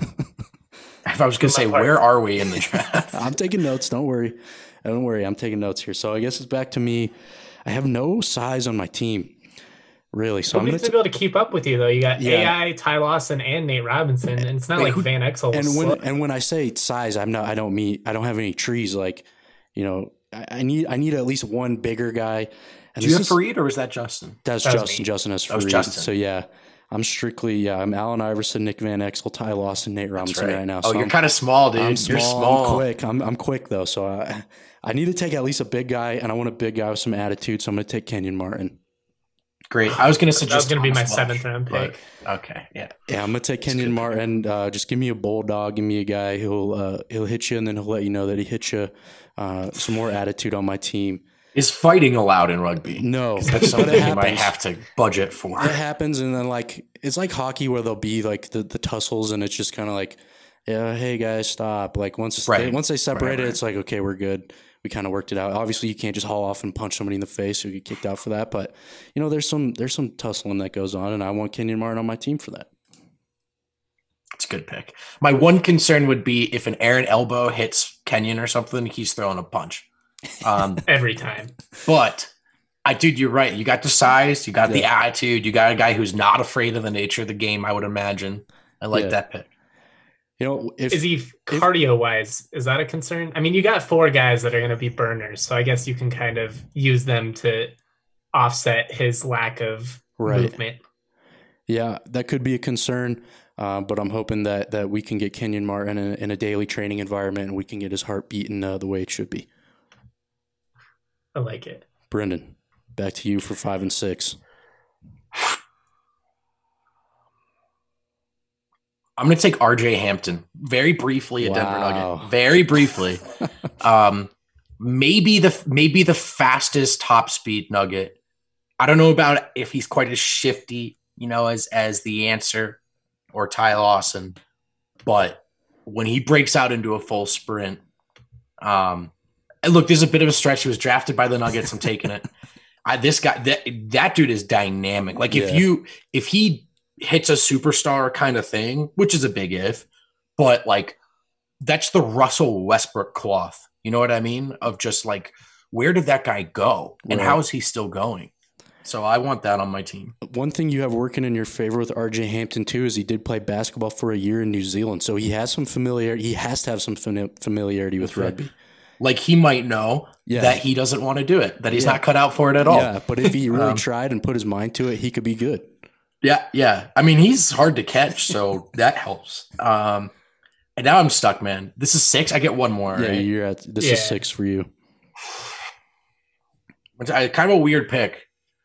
If I was going to say, where are we in the draft? I'm taking notes. Don't worry. Don't worry. I'm taking notes here. So I guess it's back to me. I have no size on my team, really. So Nobody's I'm going going to be able to keep up with you, though. You got Yeah. A I, Ty Lawson, and Nate Robinson, and it's not Wait, like who- Van Exel. and was when slow. and when I say size, I'm not. I don't mean. I don't have any trees. Like, you know, I, I need. I need at least one bigger guy. And Do you this have is- Fareed or was that Justin? That's That was Justin. me. Justin has That was Fareed. Justin. So yeah, I'm strictly yeah. I'm Allen Iverson, Nick Van Exel, Ty Lawson, Nate That's Robinson right. now. Oh, So you're I'm, kind of small, dude. I'm You're small, small. I'm quick. I'm I'm quick though. So I I need to take at least a big guy, and I want a big guy with some attitude. So I'm going to take Kenyon Martin. Great. I was going to That suggest was going to be my Thomas Welsh, seventh round but- pick. Okay, yeah. Yeah, I'm gonna take Kenyon good. Martin. Uh, just give me a bulldog. Give me a guy who'll uh, he'll hit you, and then he'll let you know that he hit you. Uh, some more attitude on my team. Is fighting allowed in rugby? No, That's but something it you might happens. have to budget for. It happens, and then like it's like hockey where there'll be like the, the tussles, and it's just kind of like, yeah, hey guys, stop. Like once Right. they, once they separate Right, it, right. it's like okay, we're good. We kind of worked it out. Obviously, you can't just haul off and punch somebody in the face or get kicked out for that. But you know, there's some there's some tussling that goes on, and I want Kenyon Martin on my team for that. It's a good pick. My one concern would be if an Aaron elbow hits Kenyon or something, he's throwing a punch. Um, Every time. but I, dude, you're right. You got the size, you got the Yeah. attitude, you got a guy who's not afraid of the nature of the game. I would imagine. I like Yeah. that pick. You know, if Is he cardio wise? Is that a concern? I mean, you got four guys that are going to be burners, so I guess you can kind of use them to offset his lack of Right. movement. Yeah, that could be a concern, uh, but I'm hoping that that we can get Kenyon Martin in a, in a daily training environment, and we can get his heart beating uh, the way it should be. I like it. Brendan, back to you for five and six. I'm going to take R J Hampton very briefly at Denver Wow. Nugget. Very briefly. um, maybe the maybe the fastest top speed Nugget. I don't know about if he's quite as shifty, you know, as as the answer or Ty Lawson, but when he breaks out into a full sprint, um, and look, there's a bit of a stretch. He was drafted by the Nuggets. I'm taking it. I, this guy, that that dude is dynamic. Like if Yeah. you if he hits a superstar kind of thing, which is a big if, but like that's the Russell Westbrook cloth. You know what I mean? Of just like, where did that guy go and Right. how is he still going? So I want that on my team. One thing you have working in your favor with R J Hampton too is he did play basketball for a year in New Zealand, so he has some familiarity. He has to have some fami- familiarity with That's right. rugby. Like he might know Yeah. that he doesn't want to do it, that he's Yeah. not cut out for it at all. Yeah, but if he really Um, tried and put his mind to it, he could be good. Yeah, yeah. I mean, he's hard to catch, so that helps. Um, and now I'm stuck, man. This is six. I get one more. Yeah, right? you're at this Yeah. is six for you. Which I, kind of a weird pick.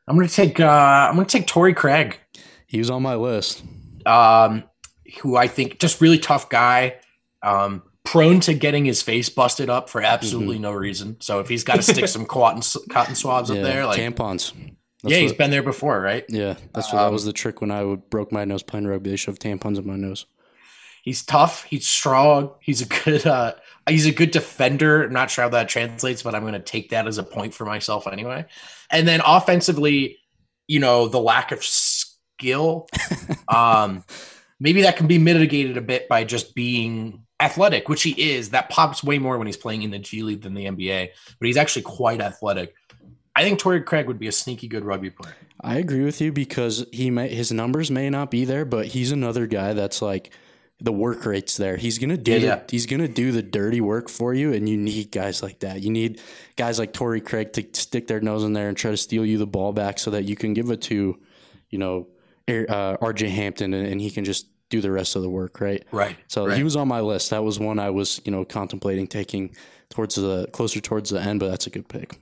I'm gonna take uh, I'm gonna take Torrey Craig. He was on my list. Um, who I think just really tough guy. Um, prone to getting his face busted up for absolutely mm-hmm. no reason. So if he's got to stick some cotton cotton swabs yeah, up there, like tampons. That's yeah, what, he's been there before, right? Yeah, that's what um, that was the trick when I would broke my nose playing rugby. They shoved tampons in my nose. He's tough. He's strong. He's a good. Uh, he's a good defender. I'm not sure how that translates, but I'm going to take that as a point for myself anyway. And then offensively, you know, the lack of skill, um, maybe that can be mitigated a bit by just being athletic, which he is. That pops way more when he's playing in the G League than the N B A, but he's actually quite athletic. I think Torrey Craig would be a sneaky good rugby player. I agree with you because he may, his numbers may not be there, but he's another guy that's like the work rate's there. He's gonna do yeah, the, yeah. he's gonna do the dirty work for you, and you need guys like that. You need guys like Torrey Craig to stick their nose in there and try to steal you the ball back so that you can give it to, you know, uh, R J Hampton, and, and he can just do the rest of the work, right? Right. So right. he was on my list. That was one I was, you know, contemplating taking towards the closer towards the end, but that's a good pick.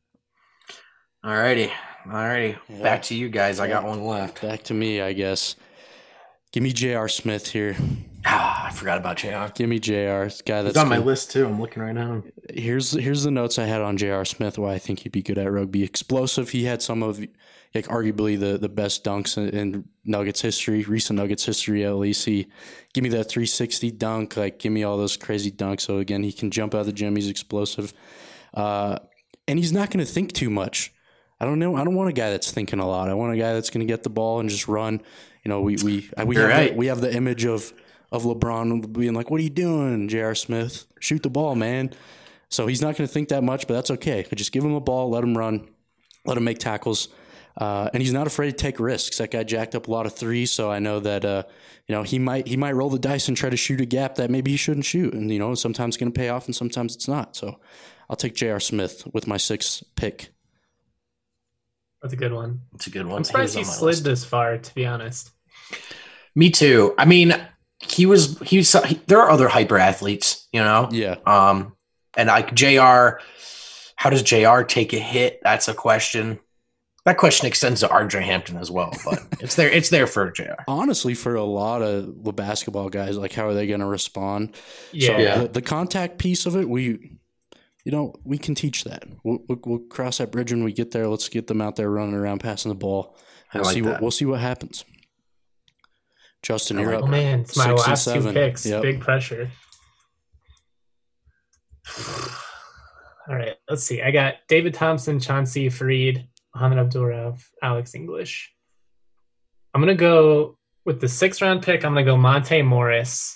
All righty. All righty. Yeah. Back to you guys. I got one left. Back to me, I guess. Give me J R. Smith here. Ah, I forgot about J R. Give me J R. Guy that's He's on my good. list too. I'm looking right now. Here's here's the notes I had on J R. Smith. Why I think he'd be good at rugby. Explosive. He had some of, like, arguably the, the best dunks in, in Nuggets history, recent Nuggets history at least. He give me that three sixty dunk. Like, give me all those crazy dunks. So again, he can jump out of the gym. He's explosive, uh, and he's not going to think too much. I don't know. I don't want a guy that's thinking a lot. I want a guy that's going to get the ball and just run. You know, we we we have, right. the, we have the image of of LeBron being like, "What are you doing, J R. Smith? Shoot the ball, man." So he's not going to think that much, but that's okay. Just give him a ball, let him run, let him make tackles, uh, and he's not afraid to take risks. That guy jacked up a lot of threes, so I know that uh, you know he might he might roll the dice and try to shoot a gap that maybe he shouldn't shoot, and you know sometimes it's going to pay off and sometimes it's not. So I'll take J R. Smith with my sixth pick. That's a good one. It's a good one. I'm surprised he, he slid list. this far, to be honest. Me too. I mean, he was, he was, he, there are other hyper athletes, you know? Yeah. Um, and like J R, how does J R take a hit? That's a question. That question extends to R J Hampton as well, but it's there, it's there for J R. Honestly, for a lot of the basketball guys, like, how are they going to respond? Yeah. So yeah. The, the contact piece of it, we, you know, we can teach that. We'll, we'll, we'll cross that bridge when we get there. Let's get them out there running around, passing the ball. We'll I like see that. what we'll see what happens. Justin, you're like, up. Oh man, it's my last two picks. Yep. Big pressure. All right, let's see. I got David Thompson, Chauncey Fareed, Mohamed Abdul-Rauf, Alex English. I'm gonna go with the sixth round pick. I'm gonna go Monte Morris.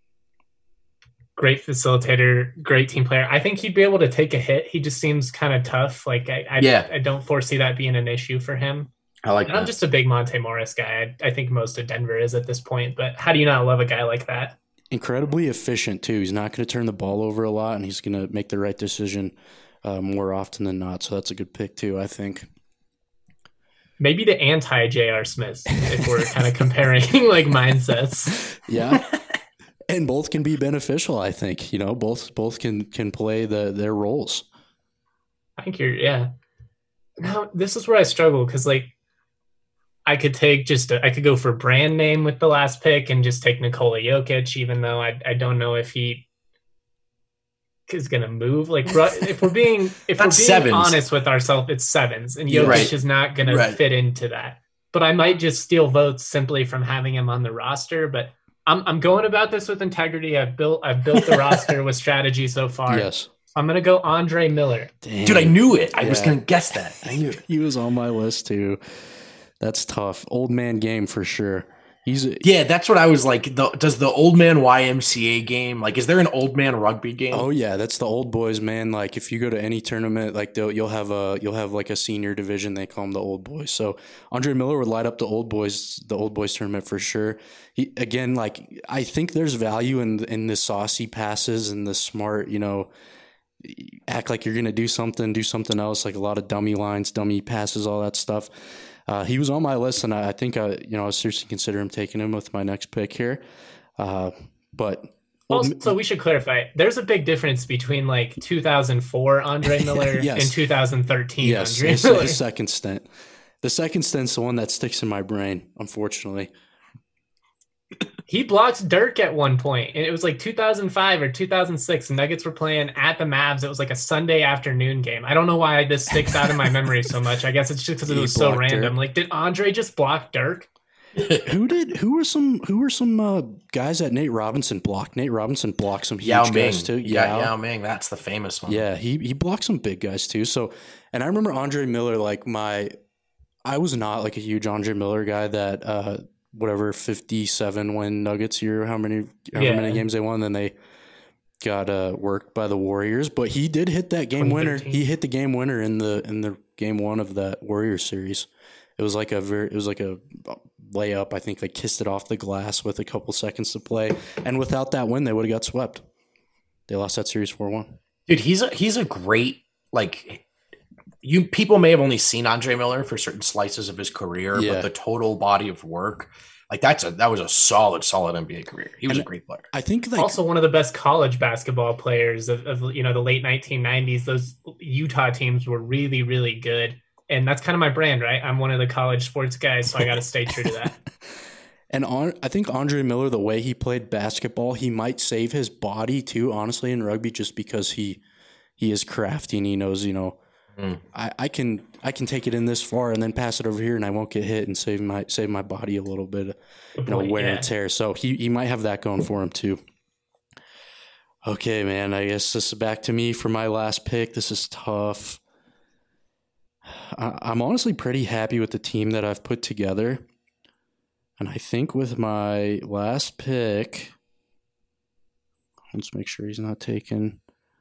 Great facilitator, great team player. I think he'd be able to take a hit. He just seems kind of tough. Like I, I, yeah. I don't foresee that being an issue for him. I like and that. I'm just a big Monte Morris guy. I, I think most of Denver is at this point. But how do you not love a guy like that? Incredibly efficient too. He's not going to turn the ball over a lot, and he's going to make the right decision uh, more often than not. So that's a good pick too, I think. Maybe the anti-J R. Smith, if we're kind of comparing like mindsets. Yeah. And both can be beneficial, I think. You know, both both can can play the their roles. I think you're, yeah. Now, this is where I struggle because, like, I could take just, a, I could go for brand name with the last pick and just take Nikola Jokic, even though I I don't know if he is going to move. Like, if we're being if we're being sevens. honest with ourselves, it's sevens, and Jokic right. is not going right. to fit into that. But I might just steal votes simply from having him on the roster, but I'm I'm going about this with integrity. I've built I've built the roster with strategy so far. Yes. I'm gonna go Andre Miller. Damn. Dude, I knew it. I yeah. was gonna guess that. I knew it. He was on my list too. That's tough. Old man game for sure. He's a, yeah, that's what I was like. The, does the old man Y M C A game, like, is there an old man rugby game? Oh yeah, that's the old boys, man. Like, if you go to any tournament, like you'll have a you'll have like a senior division. They call them the old boys. So Andre Miller would light up the old boys, the old boys tournament for sure. He again, like, I think there's value in in the saucy passes and the smart, you know, act like you're gonna do something, do something else, like a lot of dummy lines, dummy passes, all that stuff. Uh, he was on my list, and I, I think I, you know, I was seriously considering taking him with my next pick here. Uh, but also, so we should clarify: there's a big difference between like two thousand four Andre Miller yes. and two thousand thirteen yes, Andre his, Miller. His second stint. The second stint's the one that sticks in my brain, unfortunately. He blocked Dirk at one point, and it was like two thousand five or two thousand six. The Nuggets were playing at the Mavs. It was like a Sunday afternoon game. I don't know why this sticks out in my memory so much. I guess it's just because it He was so blocked random. Dirk. Like, did Andre just block Dirk? Who did? Who were some? Who were some uh, guys that Nate Robinson blocked? Nate Robinson blocked some huge Yao Ming. guys too. Yeah, Yao Ming. That's the famous one. Yeah, he he blocked some big guys too. So, and I remember Andre Miller. Like my, I was not like a huge Andre Miller guy. That uh, whatever fifty-seven win Nuggets year, how many however Yeah. many games they won, then they got uh, worked by the Warriors. But he did hit that game winner. twenty thirteen. He hit the game winner in the in the game one of that Warriors series. It was like a very it was like a layup. I think they kissed it off the glass with a couple seconds to play, and without that win, they would have got swept. They lost that series four one. Dude, he's a he's a great like you people may have only seen Andre Miller for certain slices of his career, Yeah. but the total body of work, like that's a that was a solid, solid N B A career. He was And a great player. I think like Also, one of the best college basketball players of, of you know the late nineteen nineties. Those Utah teams were really, really good, and that's kind of my brand, right? I'm one of the college sports guys, so I got to stay true to that. And on, I think Andre Miller, the way he played basketball, he might save his body too, honestly, in rugby, just because he he is crafty and he knows, you know, Mm. I, I can I can take it in this far and then pass it over here and I won't get hit and save my save my body a little bit, you know, Boy, wear yeah. and tear. So he he might have that going for him too. Okay, man. I guess this is back to me for my last pick. This is tough. I, I'm honestly pretty happy with the team that I've put together. And I think with my last pick, let's make sure he's not taken.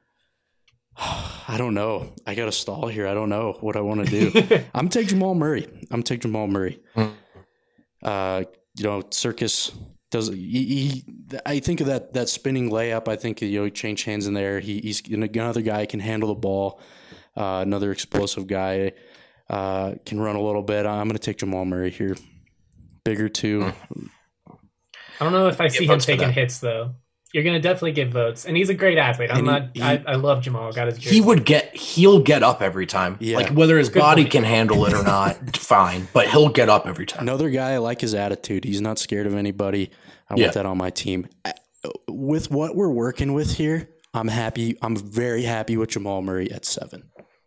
I don't know. I got to stall here. I don't know what I want to do. I'm taking Jamal Murray. I'm taking Jamal Murray. Mm. Uh, you know, Circus does. He, he, I think of that that spinning layup. I think you know he changed hands in there. He, he's another guy who can handle the ball. Uh, another explosive guy uh, can run a little bit. I'm going to take Jamal Murray here. Bigger too. I don't know if I Get see him votes for taking that. hits though. You're gonna definitely get votes, and he's a great athlete. I'm And not. he- I, I love Jamal. Got his. He jersey. would get he'll get up every time. Yeah. Like whether his Good body point. can handle it or not, fine. But he'll get up every time. Another guy, I like his attitude. He's not scared of anybody. I Yeah. want that on my team. Uh, With what we're working with here, I'm happy. I'm very happy with Jamal Murray at seven.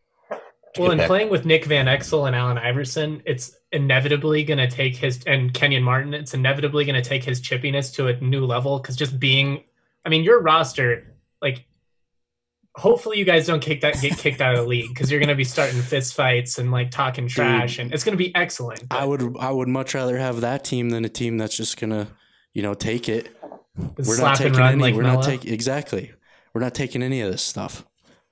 Well, in Okay. playing with Nick Van Exel and Allen Iverson, it's inevitably going to take his and Kenyon Martin. It's inevitably going to take his chippiness to a new level because just being, I mean, your roster, like, hopefully you guys don't kick that get kicked out of the league because you're going to be starting fist fights and like talking trash, and it's going to be excellent. I would I would much rather have that team than a team that's just gonna, you know, take it. We're slap not and taking run any. like we're not Melo. taking exactly. We're not taking any of this stuff.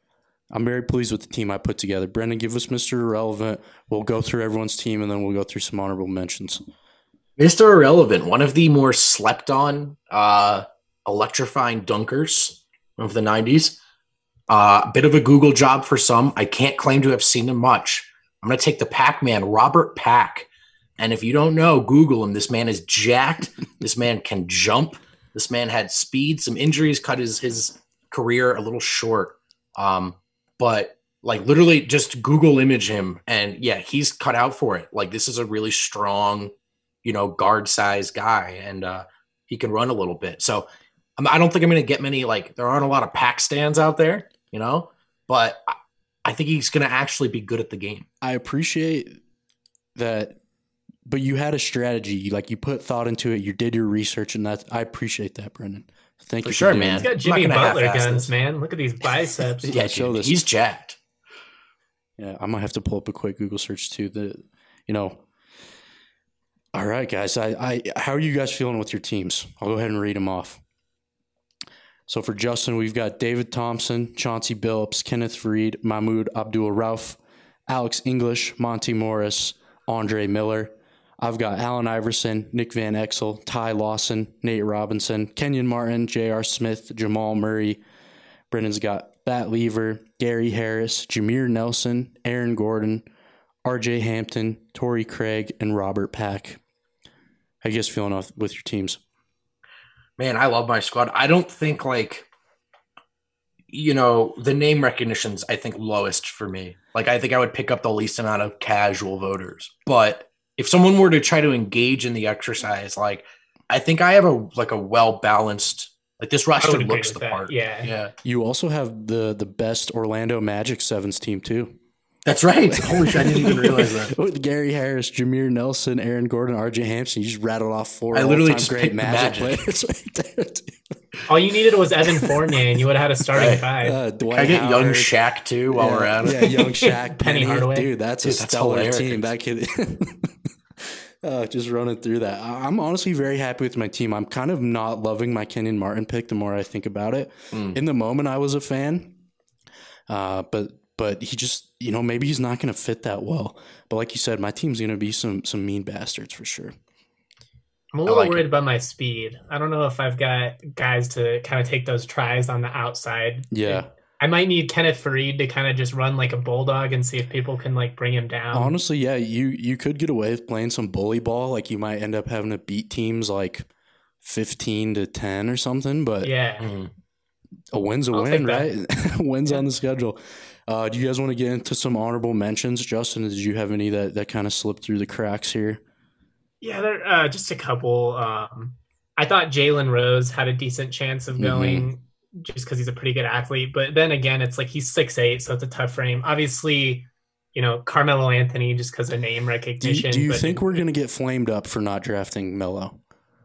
I'm very pleased with the team I put together. Brendan, give us Mister Irrelevant. We'll go through everyone's team and then we'll go through some honorable mentions. Mister Irrelevant, one of the more slept on, uh, electrifying dunkers of the nineties. A uh, bit of a Google job for some. I can't claim to have seen him much. I'm going to take the Pac-Man, Robert Pack. And if you don't know, Google him. This man is jacked. This man can jump. This man had speed. Some injuries cut his, his career a little short. Um, but like literally just Google image him. And yeah, he's cut out for it. Like this is a really strong, you know, guard size guy. And uh, he can run a little bit. So um, I don't think I'm going to get many, like there aren't a lot of Pack stands out there, you know, but I, I think he's going to actually be good at the game. I appreciate that, but you had a strategy. Like you put thought into it. You did your research, and that I appreciate that, Brendan. Thank For you sure, doing man. He's that. got Jimmy I'm not gonna Butler half-ass guns, this. man. Look at these biceps. Yeah, Yeah, show dude, this. he's jacked. Yeah, I might have to pull up a quick Google search too. The, you know. All right, guys. I, I, how are you guys feeling with your teams? I'll go ahead and read them off. So for Justin, we've got David Thompson, Chauncey Billups, Kenneth Reed, Mahmoud Abdul-Rauf, Alex English, Monty Morris, Andre Miller. I've got Allen Iverson, Nick Van Exel, Ty Lawson, Nate Robinson, Kenyon Martin, J R. Smith, Jamal Murray. Brendan's got Bat Lever, Gary Harris, Jameer Nelson, Aaron Gordon, R J Hampton, Torrey Craig, and Robert Pack. How you guys feeling off with your teams? Man, I love my squad. I don't think like you know, the name recognition's I think lowest for me. Like I think I would pick up the least amount of casual voters. But if someone were to try to engage in the exercise, like I think I have a like a well balanced. Like this roster looks the that. part. Yeah, yeah. You also have the the best Orlando Magic sevens team too. That's right. Holy shit, I didn't even realize that. With Gary Harris, Jameer Nelson, Aaron Gordon, R J Hampson, you just rattled off four. I literally all-time just great picked Magic, Magic. players right there. Dude. all you needed was Evan Fournier, and you would have had a starting Right. five. Uh, Dwight Can I get Howard, young Shaq too while yeah, we're at it? Yeah, young Shaq, Penny Penny, Hardaway. dude, that's Dude, a that's stellar hilarious. team. That kid. Uh, just running through that. I- I'm honestly very happy with my team. I'm kind of not loving my Kenyon Martin pick the more I think about it. Mm. In the moment, I was a fan, uh, but but he just, you know, maybe he's not going to fit that well. But like you said, my team's going to be some some mean bastards for sure. I'm a little like worried it. about my speed. I don't know if I've got guys to kind of take those tries on the outside. Yeah. I might need Kenneth Fareed to kind of just run like a bulldog and see if people can like bring him down. Honestly, yeah, you you could get away with playing some bully ball. Like you might end up having to beat teams like fifteen to ten or something. But Yeah. Mhm. a win's a I'll win, take that. right? Wins Yeah. on the schedule. Uh, do you guys want to get into some honorable mentions? Justin, did you have any that, that kind of slipped through the cracks here? Yeah, there uh, just a couple. Um, I thought Jalen Rose had a decent chance of going just because he's a pretty good athlete. But then again, it's like he's six eight, so it's a tough frame. Obviously, you know, Carmelo Anthony just because of name Do you, recognition. do you but think we're going to get flamed up for not drafting Melo?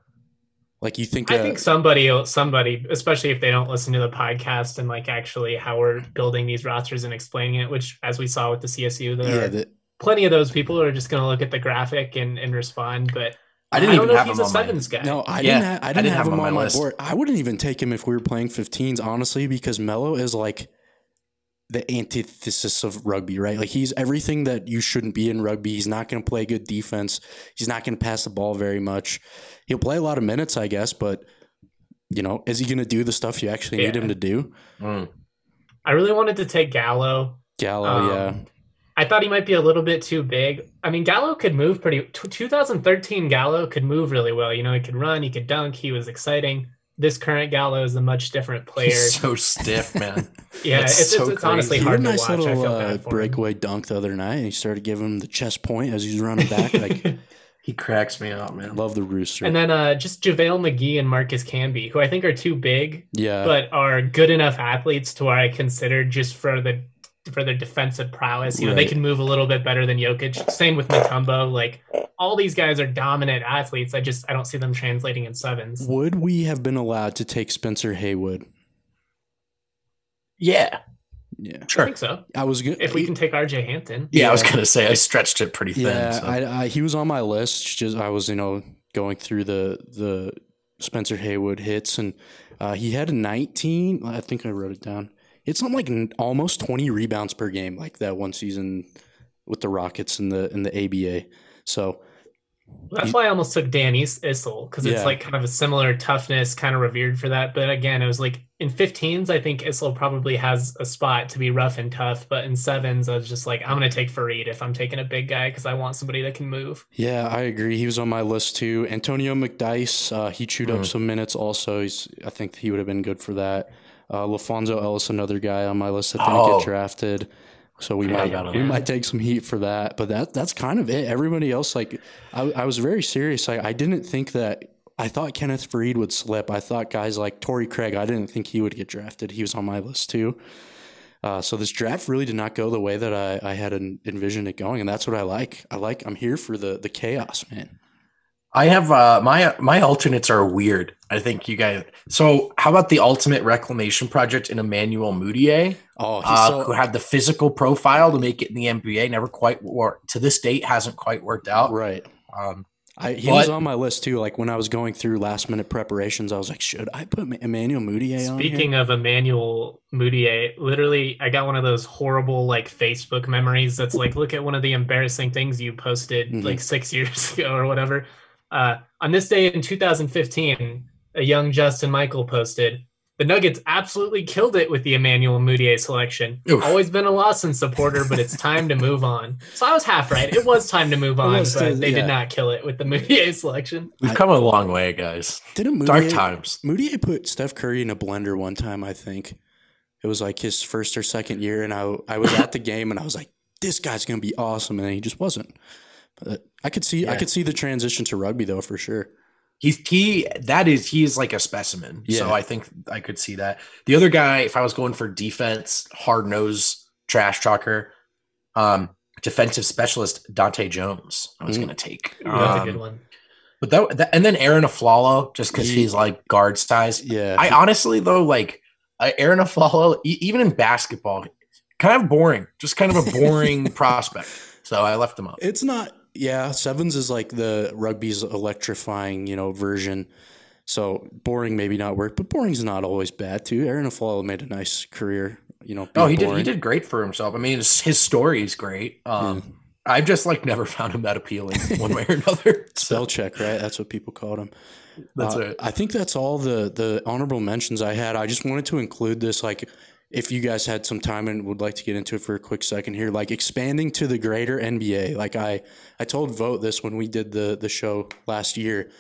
Like you think I that, think somebody, somebody, especially if they don't listen to the podcast and like actually how we're building these rosters and explaining it, which as we saw with the C S U, there yeah, are that, plenty of those people who are just going to look at the graphic and, and respond. But I didn't I don't even know have if he's him a on my- sevens guy. no, I Yeah, didn't. Ha- I didn't, have, him on my, list. board. I wouldn't even take him if we were playing fifteens, honestly, because Melo is like the antithesis of rugby, right? Like he's everything that you shouldn't be in rugby. He's not going to play good defense. He's not going to pass the ball very much. He'll play a lot of minutes, I guess, but you know, is he going to do the stuff you actually need Yeah. him to do? Mm. I really wanted to take Gallo. Gallo, Um, yeah. I thought he might be a little bit too big. I mean, Gallo could move pretty. t- twenty thirteen Gallo could move really well. You know, he could run, he could dunk, he was exciting. This current Gallo is a much different player. He's so stiff, man. yeah, That's it's, so it's, it's honestly He hard had a to nice watch. I little feel uh, bad for him. breakaway dunk the other night, and he started giving him the chest point as he was running back. Like, He cracks me out, man. love the rooster. And then uh, just JaVale McGee and Marcus Camby, who I think are too big, yeah, but are good enough athletes to where I consider just for the for their defensive prowess. You know, they Right. can move a little bit better than Jokic. Same with Mutombo. Like all these guys are dominant athletes. I just I don't see them translating in sevens. would we have been allowed to take Spencer Haywood? Yeah, Yeah, I sure. think so. I was good. If we can take R J Hampton. Yeah, I was Yeah. gonna say I stretched it pretty thin. Yeah, so. I, I, he was on my list. Just I was, you know, going through the the Spencer Haywood hits, and uh, he had a nineteen. I think I wrote it down. It's something like n- almost twenty rebounds per game, like that one season with the Rockets in the in the A B A. So That's why I almost took Dan Is- Issel because it's Yeah. like kind of a similar toughness, kind of revered for that. But again, it was like in fifteens, I think Issel probably has a spot to be rough and tough. But in sevens, I was just like, I'm going to take Fareed if I'm taking a big guy because I want somebody that can move. yeah, I agree. He was on my list too. Antonio McDyess, uh, he chewed up Mhm. some minutes. Also, he's I think he would have been good for that. Uh, LaFonso Ellis, another guy on my list that didn't Oh. get drafted. So we Yeah, might I got him. we might take some heat for that, but that that's kind of it. Everybody else, like I, I was very serious. I, I didn't think that. I thought Kenneth Fareed would slip. I thought guys like Torrey Craig. I didn't think he would get drafted. He was on my list too. Uh, so this draft really did not go the way that I, I had en- envisioned it going, and that's what I like. I like. I'm here for the the chaos, man. I have uh, my my alternates are weird. I think you guys. So how about the ultimate reclamation project in Emmanuel Mudiay, Oh, he's uh, so, who had the physical profile to make it in the N B A? Never quite worked. To this date, hasn't quite worked out. right. Um, I, he But- was on my list too. Like when I was going through last minute preparations, I was like, should I put Emmanuel Mudiay on here? Speaking of Emmanuel Mudiay, literally, I got one of those horrible like Facebook memories. That's like, look at one of the embarrassing things you posted Mhm. like six years ago or whatever. Uh, on this day in two thousand fifteen, a young Justin Michael posted, "The Nuggets absolutely killed it with the Emmanuel Mudiay selection. Oof. Always been a Lawson supporter, but it's time to move on." So I was half right. It was time to move on, was, but uh, they yeah. did not kill it with the Mudiay selection. we've I- come a long way, guys. Didn't Mudiay, Dark times. Mudiay put Steph Curry in a blender one time, I think. It was like his first or second year, and I I was at the game, and I was like, this guy's gonna be awesome, and then he just wasn't. But I could see yeah. I could see the transition to rugby though for sure. He's he that is he is like a specimen. Yeah. So I think I could see that. The other guy, if I was going for defense, hard nose, trash talker, um, defensive specialist Dante Jones, I was mm. gonna take. Yeah, that's um, a good one. But that, that and then Aaron Aflalo, just because he, he's like guard size. Yeah. I honestly though like uh, Aaron Aflalo, e- even in basketball, kind of boring. Just kind of a boring prospect. So I left him up. It's not. Yeah, sevens is like the rugby's electrifying, you know, version. So boring maybe not work, but boring's not always bad too. Aaron Aflalo made a nice career, you know. Oh, he boring. did. He did great for himself. I mean, his, his story is great. Um, yeah. I've just like never found him that appealing one way or another. Spell check, right? That's what people called him. That's uh, it. I think that's all the the honorable mentions I had. I just wanted to include this, like, if you guys had some time and would like to get into it for a quick second here, like expanding to the greater N B A. Like I, I told Vote this when we did the the show last year.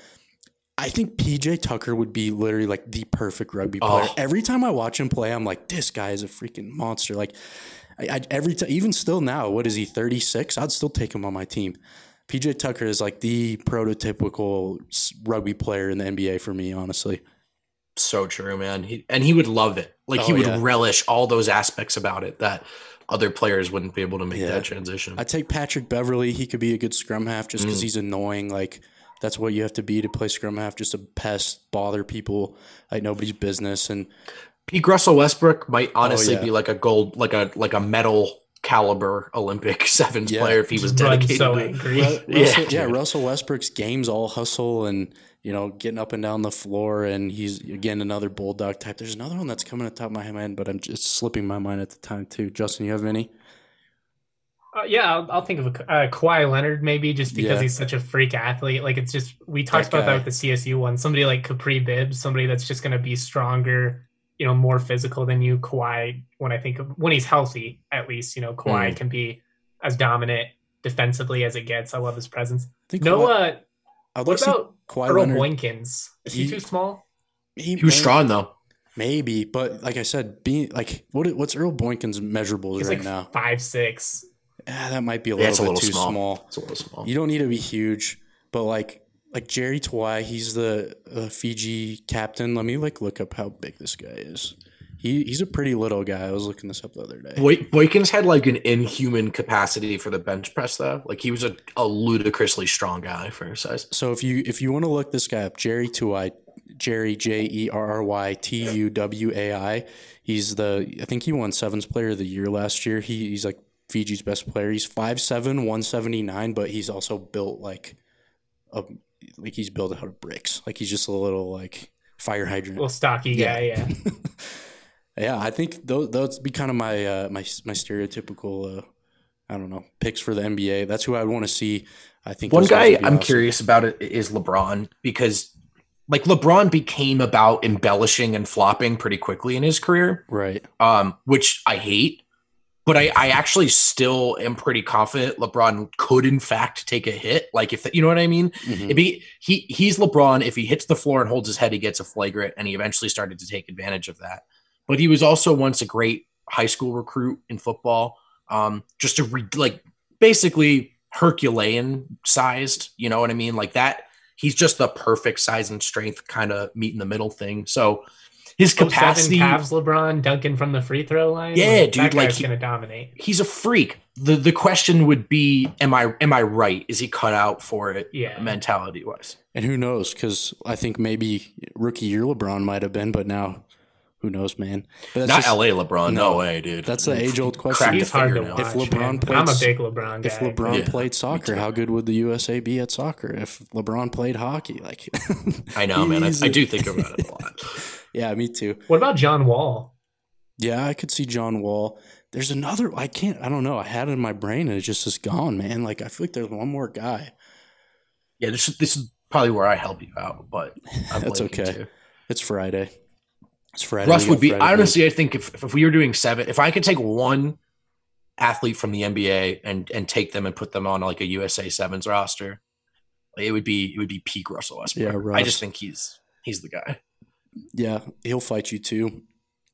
I think P J Tucker would be literally like the perfect rugby player. Oh. Every time I watch him play, I'm like, this guy is a freaking monster. Like I, I every time, even still now, what is he, thirty-six? I'd still take him on my team. P J Tucker is like the prototypical rugby player in the N B A for me, honestly. So true, man. He, and he would love it. Like oh, he would yeah. relish all those aspects about it that other players wouldn't be able to make yeah. that transition. I take Patrick Beverly. He could be a good scrum half just because mm. he's annoying. Like that's what you have to be to play scrum half, just a pest, bother people like nobody's business. And Pete Russell Westbrook might honestly oh, yeah. be like a gold, like a like a medal caliber Olympic sevens yeah. player if he was dedicated. So to angry. Ru- Russell, yeah, yeah, Russell Westbrook's game's all hustle and, you know, getting up and down the floor, and he's, again, another bulldog type. There's another one that's coming at the top of my head, but I'm just slipping my mind at the time, too. Justin, you have any? Uh, yeah, I'll, I'll think of a, uh, Kawhi Leonard, maybe, just because yeah. he's such a freak athlete. Like, it's just, we talked that about guy. that with the C S U one. Somebody like Capri Bibbs, somebody that's just going to be stronger, you know, more physical than you. Kawhi, when I think of, when he's healthy, at least, you know, Kawhi mm. can be as dominant defensively as it gets. I love his presence. I think no, Kawhi, uh, I'd what about Kawhi Earl Leonard, Boykins? Is he, he too small? He, he was may, strong though. Maybe, but like I said, being like what what's Earl Boykins' measurables He's right like now? Five six. Yeah, that might be a yeah, little a bit little too small. small. It's a little small. You don't need to be huge, but like like Jerry Tawai, he's the uh, Fiji captain. Let me like look up how big this guy is. He he's a pretty little guy. I was looking this up the other day. Boy, Boykins had like an inhuman capacity for the bench press though. Like he was a, a ludicrously strong guy for his size. So if you if you want to look this guy up, Jerry Tuwai, Jerry J E R R Y T U W A I. He's the I think he won Sevens Player of the Year last year. He he's like Fiji's best player. He's five seven, one seventy-nine, but he's also built like a like he's built out of bricks. Like he's just a little like fire hydrant. A little stocky yeah. guy, yeah. Yeah, I think those those be kind of my uh, my my stereotypical uh, I don't know picks for the N B A. That's who I want to see. I think one guy I'm awesome. curious about it is LeBron, because like LeBron became about embellishing and flopping pretty quickly in his career, right? Um, which I hate, but I, I actually still am pretty confident LeBron could in fact take a hit. Like if the, you know what I mean, mm-hmm. It'd be he he's LeBron. If he hits the floor and holds his head, he gets a flagrant, and he eventually started to take advantage of that. But he was also once a great high school recruit in football, um, just a re- like basically Herculean sized, you know what I mean? Like that, he's just the perfect size and strength kind of meet in the middle thing. So his capacity, oh, seven Cavs, LeBron dunking from the free throw line. Yeah, like, dude, that like guy's he, gonna dominate. He's a freak. the The question would be, am I am I right? Is he cut out for it? Yeah, mentality wise. And who knows? Because I think maybe rookie year LeBron might have been, but now. Who knows, man? But that's Not just, L A LeBron. No, no way, dude. That's the age-old question. He's hard to watch, if LeBron played, I'm a big LeBron guy. If LeBron yeah. played soccer, how good would the U S A be at soccer? If LeBron played hockey, like I know, man. I, I do think about it a lot. Yeah, me too. What about John Wall? Yeah, I could see John Wall. There's another. I can't. I don't know. I had it in my brain and it just is gone, man. Like I feel like there's one more guy. Yeah, this this is probably where I help you out, but I'm that's okay. Too. It's Friday. It's Friday. Russ would be Friday honestly. Game. I think if, if we were doing seven, if I could take one athlete from the N B A and and take them and put them on like a U S A Sevens roster, it would be it would be peak Russell Westbrook. Yeah, Russ. I just think he's he's the guy. Yeah, he'll fight you too.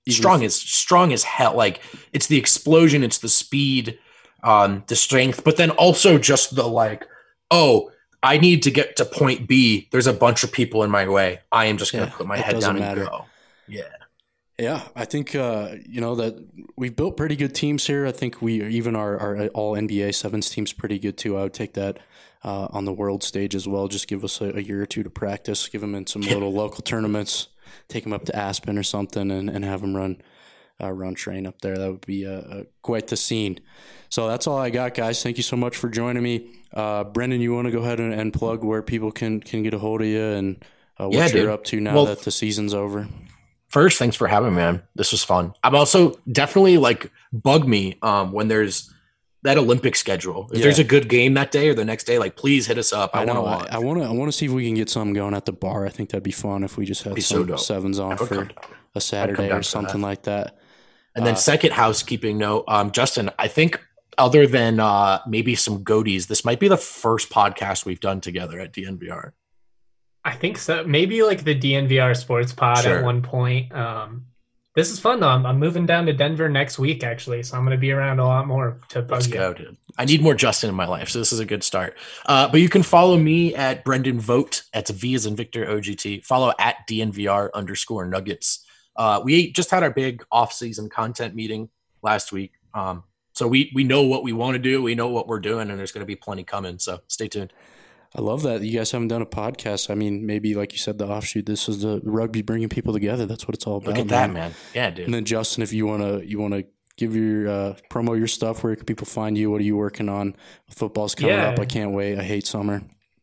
strong as strong as hell. Like it's the explosion, it's the speed, um, the strength, but then also just the like, oh, I need to get to point B. There's a bunch of people in my way. I am just going to yeah, put my head down matter. and go. Yeah. Yeah, I think, uh, you know, that we've built pretty good teams here. I think we even our, our all N B A sevens team's pretty good too. I would take that uh, on the world stage as well. Just give us a, a year or two to practice, give them in some little local tournaments, take them up to Aspen or something and, and have them run uh, run train up there. That would be uh, uh, quite the scene. So that's all I got, guys. Thank you so much for joining me. Uh, Brendan, you want to go ahead and, and plug where people can, can get a hold of you and uh, what yeah, you're dude. up to now well, that the season's over? First, thanks for having me, man. This was fun. I'm also definitely like bug me um, when there's that Olympic schedule. If yeah. there's a good game that day or the next day, like please hit us up. I, I want to watch. I want to. I want to see if we can get something going at the bar. I think that'd be fun if we just had some so sevens on for a Saturday or something that. like that. And then uh, second housekeeping note, um, Justin, I think other than uh, maybe some goatees, this might be the first podcast we've done together at D N V R. I think so. Maybe like the D N V R Sports Pod sure. at one point. Um, this is fun though. I'm, I'm moving down to Denver next week actually, so I'm going to be around a lot more to bug Let's you. go, dude. I need more Justin in my life, so this is a good start. Uh, but you can follow me at Brendan Vogt. That's V as in Victor O G T. Follow at D N V R underscore Nuggets. Uh, we just had our big off-season content meeting last week, um, so we we know what we want to do. We know what we're doing, and there's going to be plenty coming. So stay tuned. I love that you guys haven't done a podcast. I mean, maybe like you said, the offshoot. This is the rugby bringing people together. That's what it's all about. Look at man. that, man. Yeah, dude. And then Justin, if you wanna you wanna give your uh, promo your stuff, where can people find you? What are you working on? Football's coming yeah. up. I can't wait. I hate summer.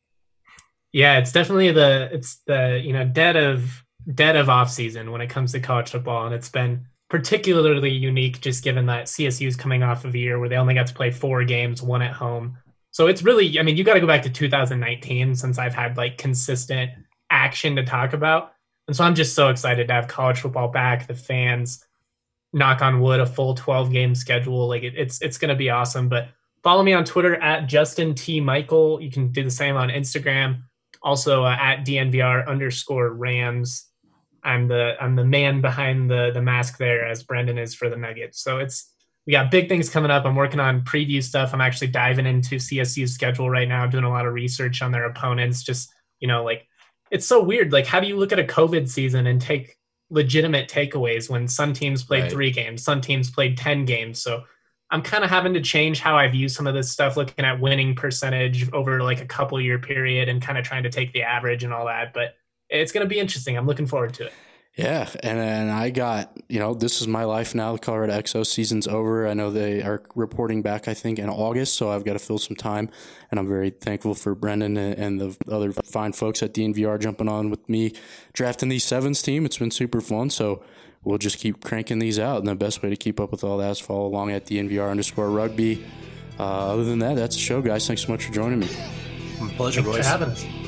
Yeah, it's definitely the it's the you know dead of dead of off season when it comes to college football, and it's been particularly unique just given that C S U is coming off of a year where they only got to play four games, one at home. So it's really, I mean, you got to go back to two thousand nineteen since I've had like consistent action to talk about. And so I'm just so excited to have college football back, the fans, knock on wood, a full twelve game schedule. Like it, it's, it's going to be awesome. But follow me on Twitter at Justin T. Michael. You can do the same on Instagram. Also uh, at D N V R underscore Rams. I'm the, I'm the man behind the, the mask there as Brendan is for the Nuggets. So it's, we got big things coming up. I'm working on preview stuff. I'm actually diving into C S U's schedule right now, doing a lot of research on their opponents. Just, you know, like, it's so weird. Like, how do you look at a COVID season and take legitimate takeaways when some teams played right. three games, some teams played ten games? So I'm kind of having to change how I view some of this stuff, looking at winning percentage over like a couple year period and kind of trying to take the average and all that. But it's going to be interesting. I'm looking forward to it. Yeah, and and I got, you know, this is my life now. The Colorado X O season's over. I know they are reporting back, I think, in August, so I've got to fill some time, and I'm very thankful for Brendan and the other fine folks at D N V R jumping on with me, drafting these sevens team. It's been super fun, so we'll just keep cranking these out, and the best way to keep up with all that is follow along at D N V R underscore rugby. Uh, other than that, that's the show, guys. Thanks so much for joining me. Pleasure, Thanks boys. for having us.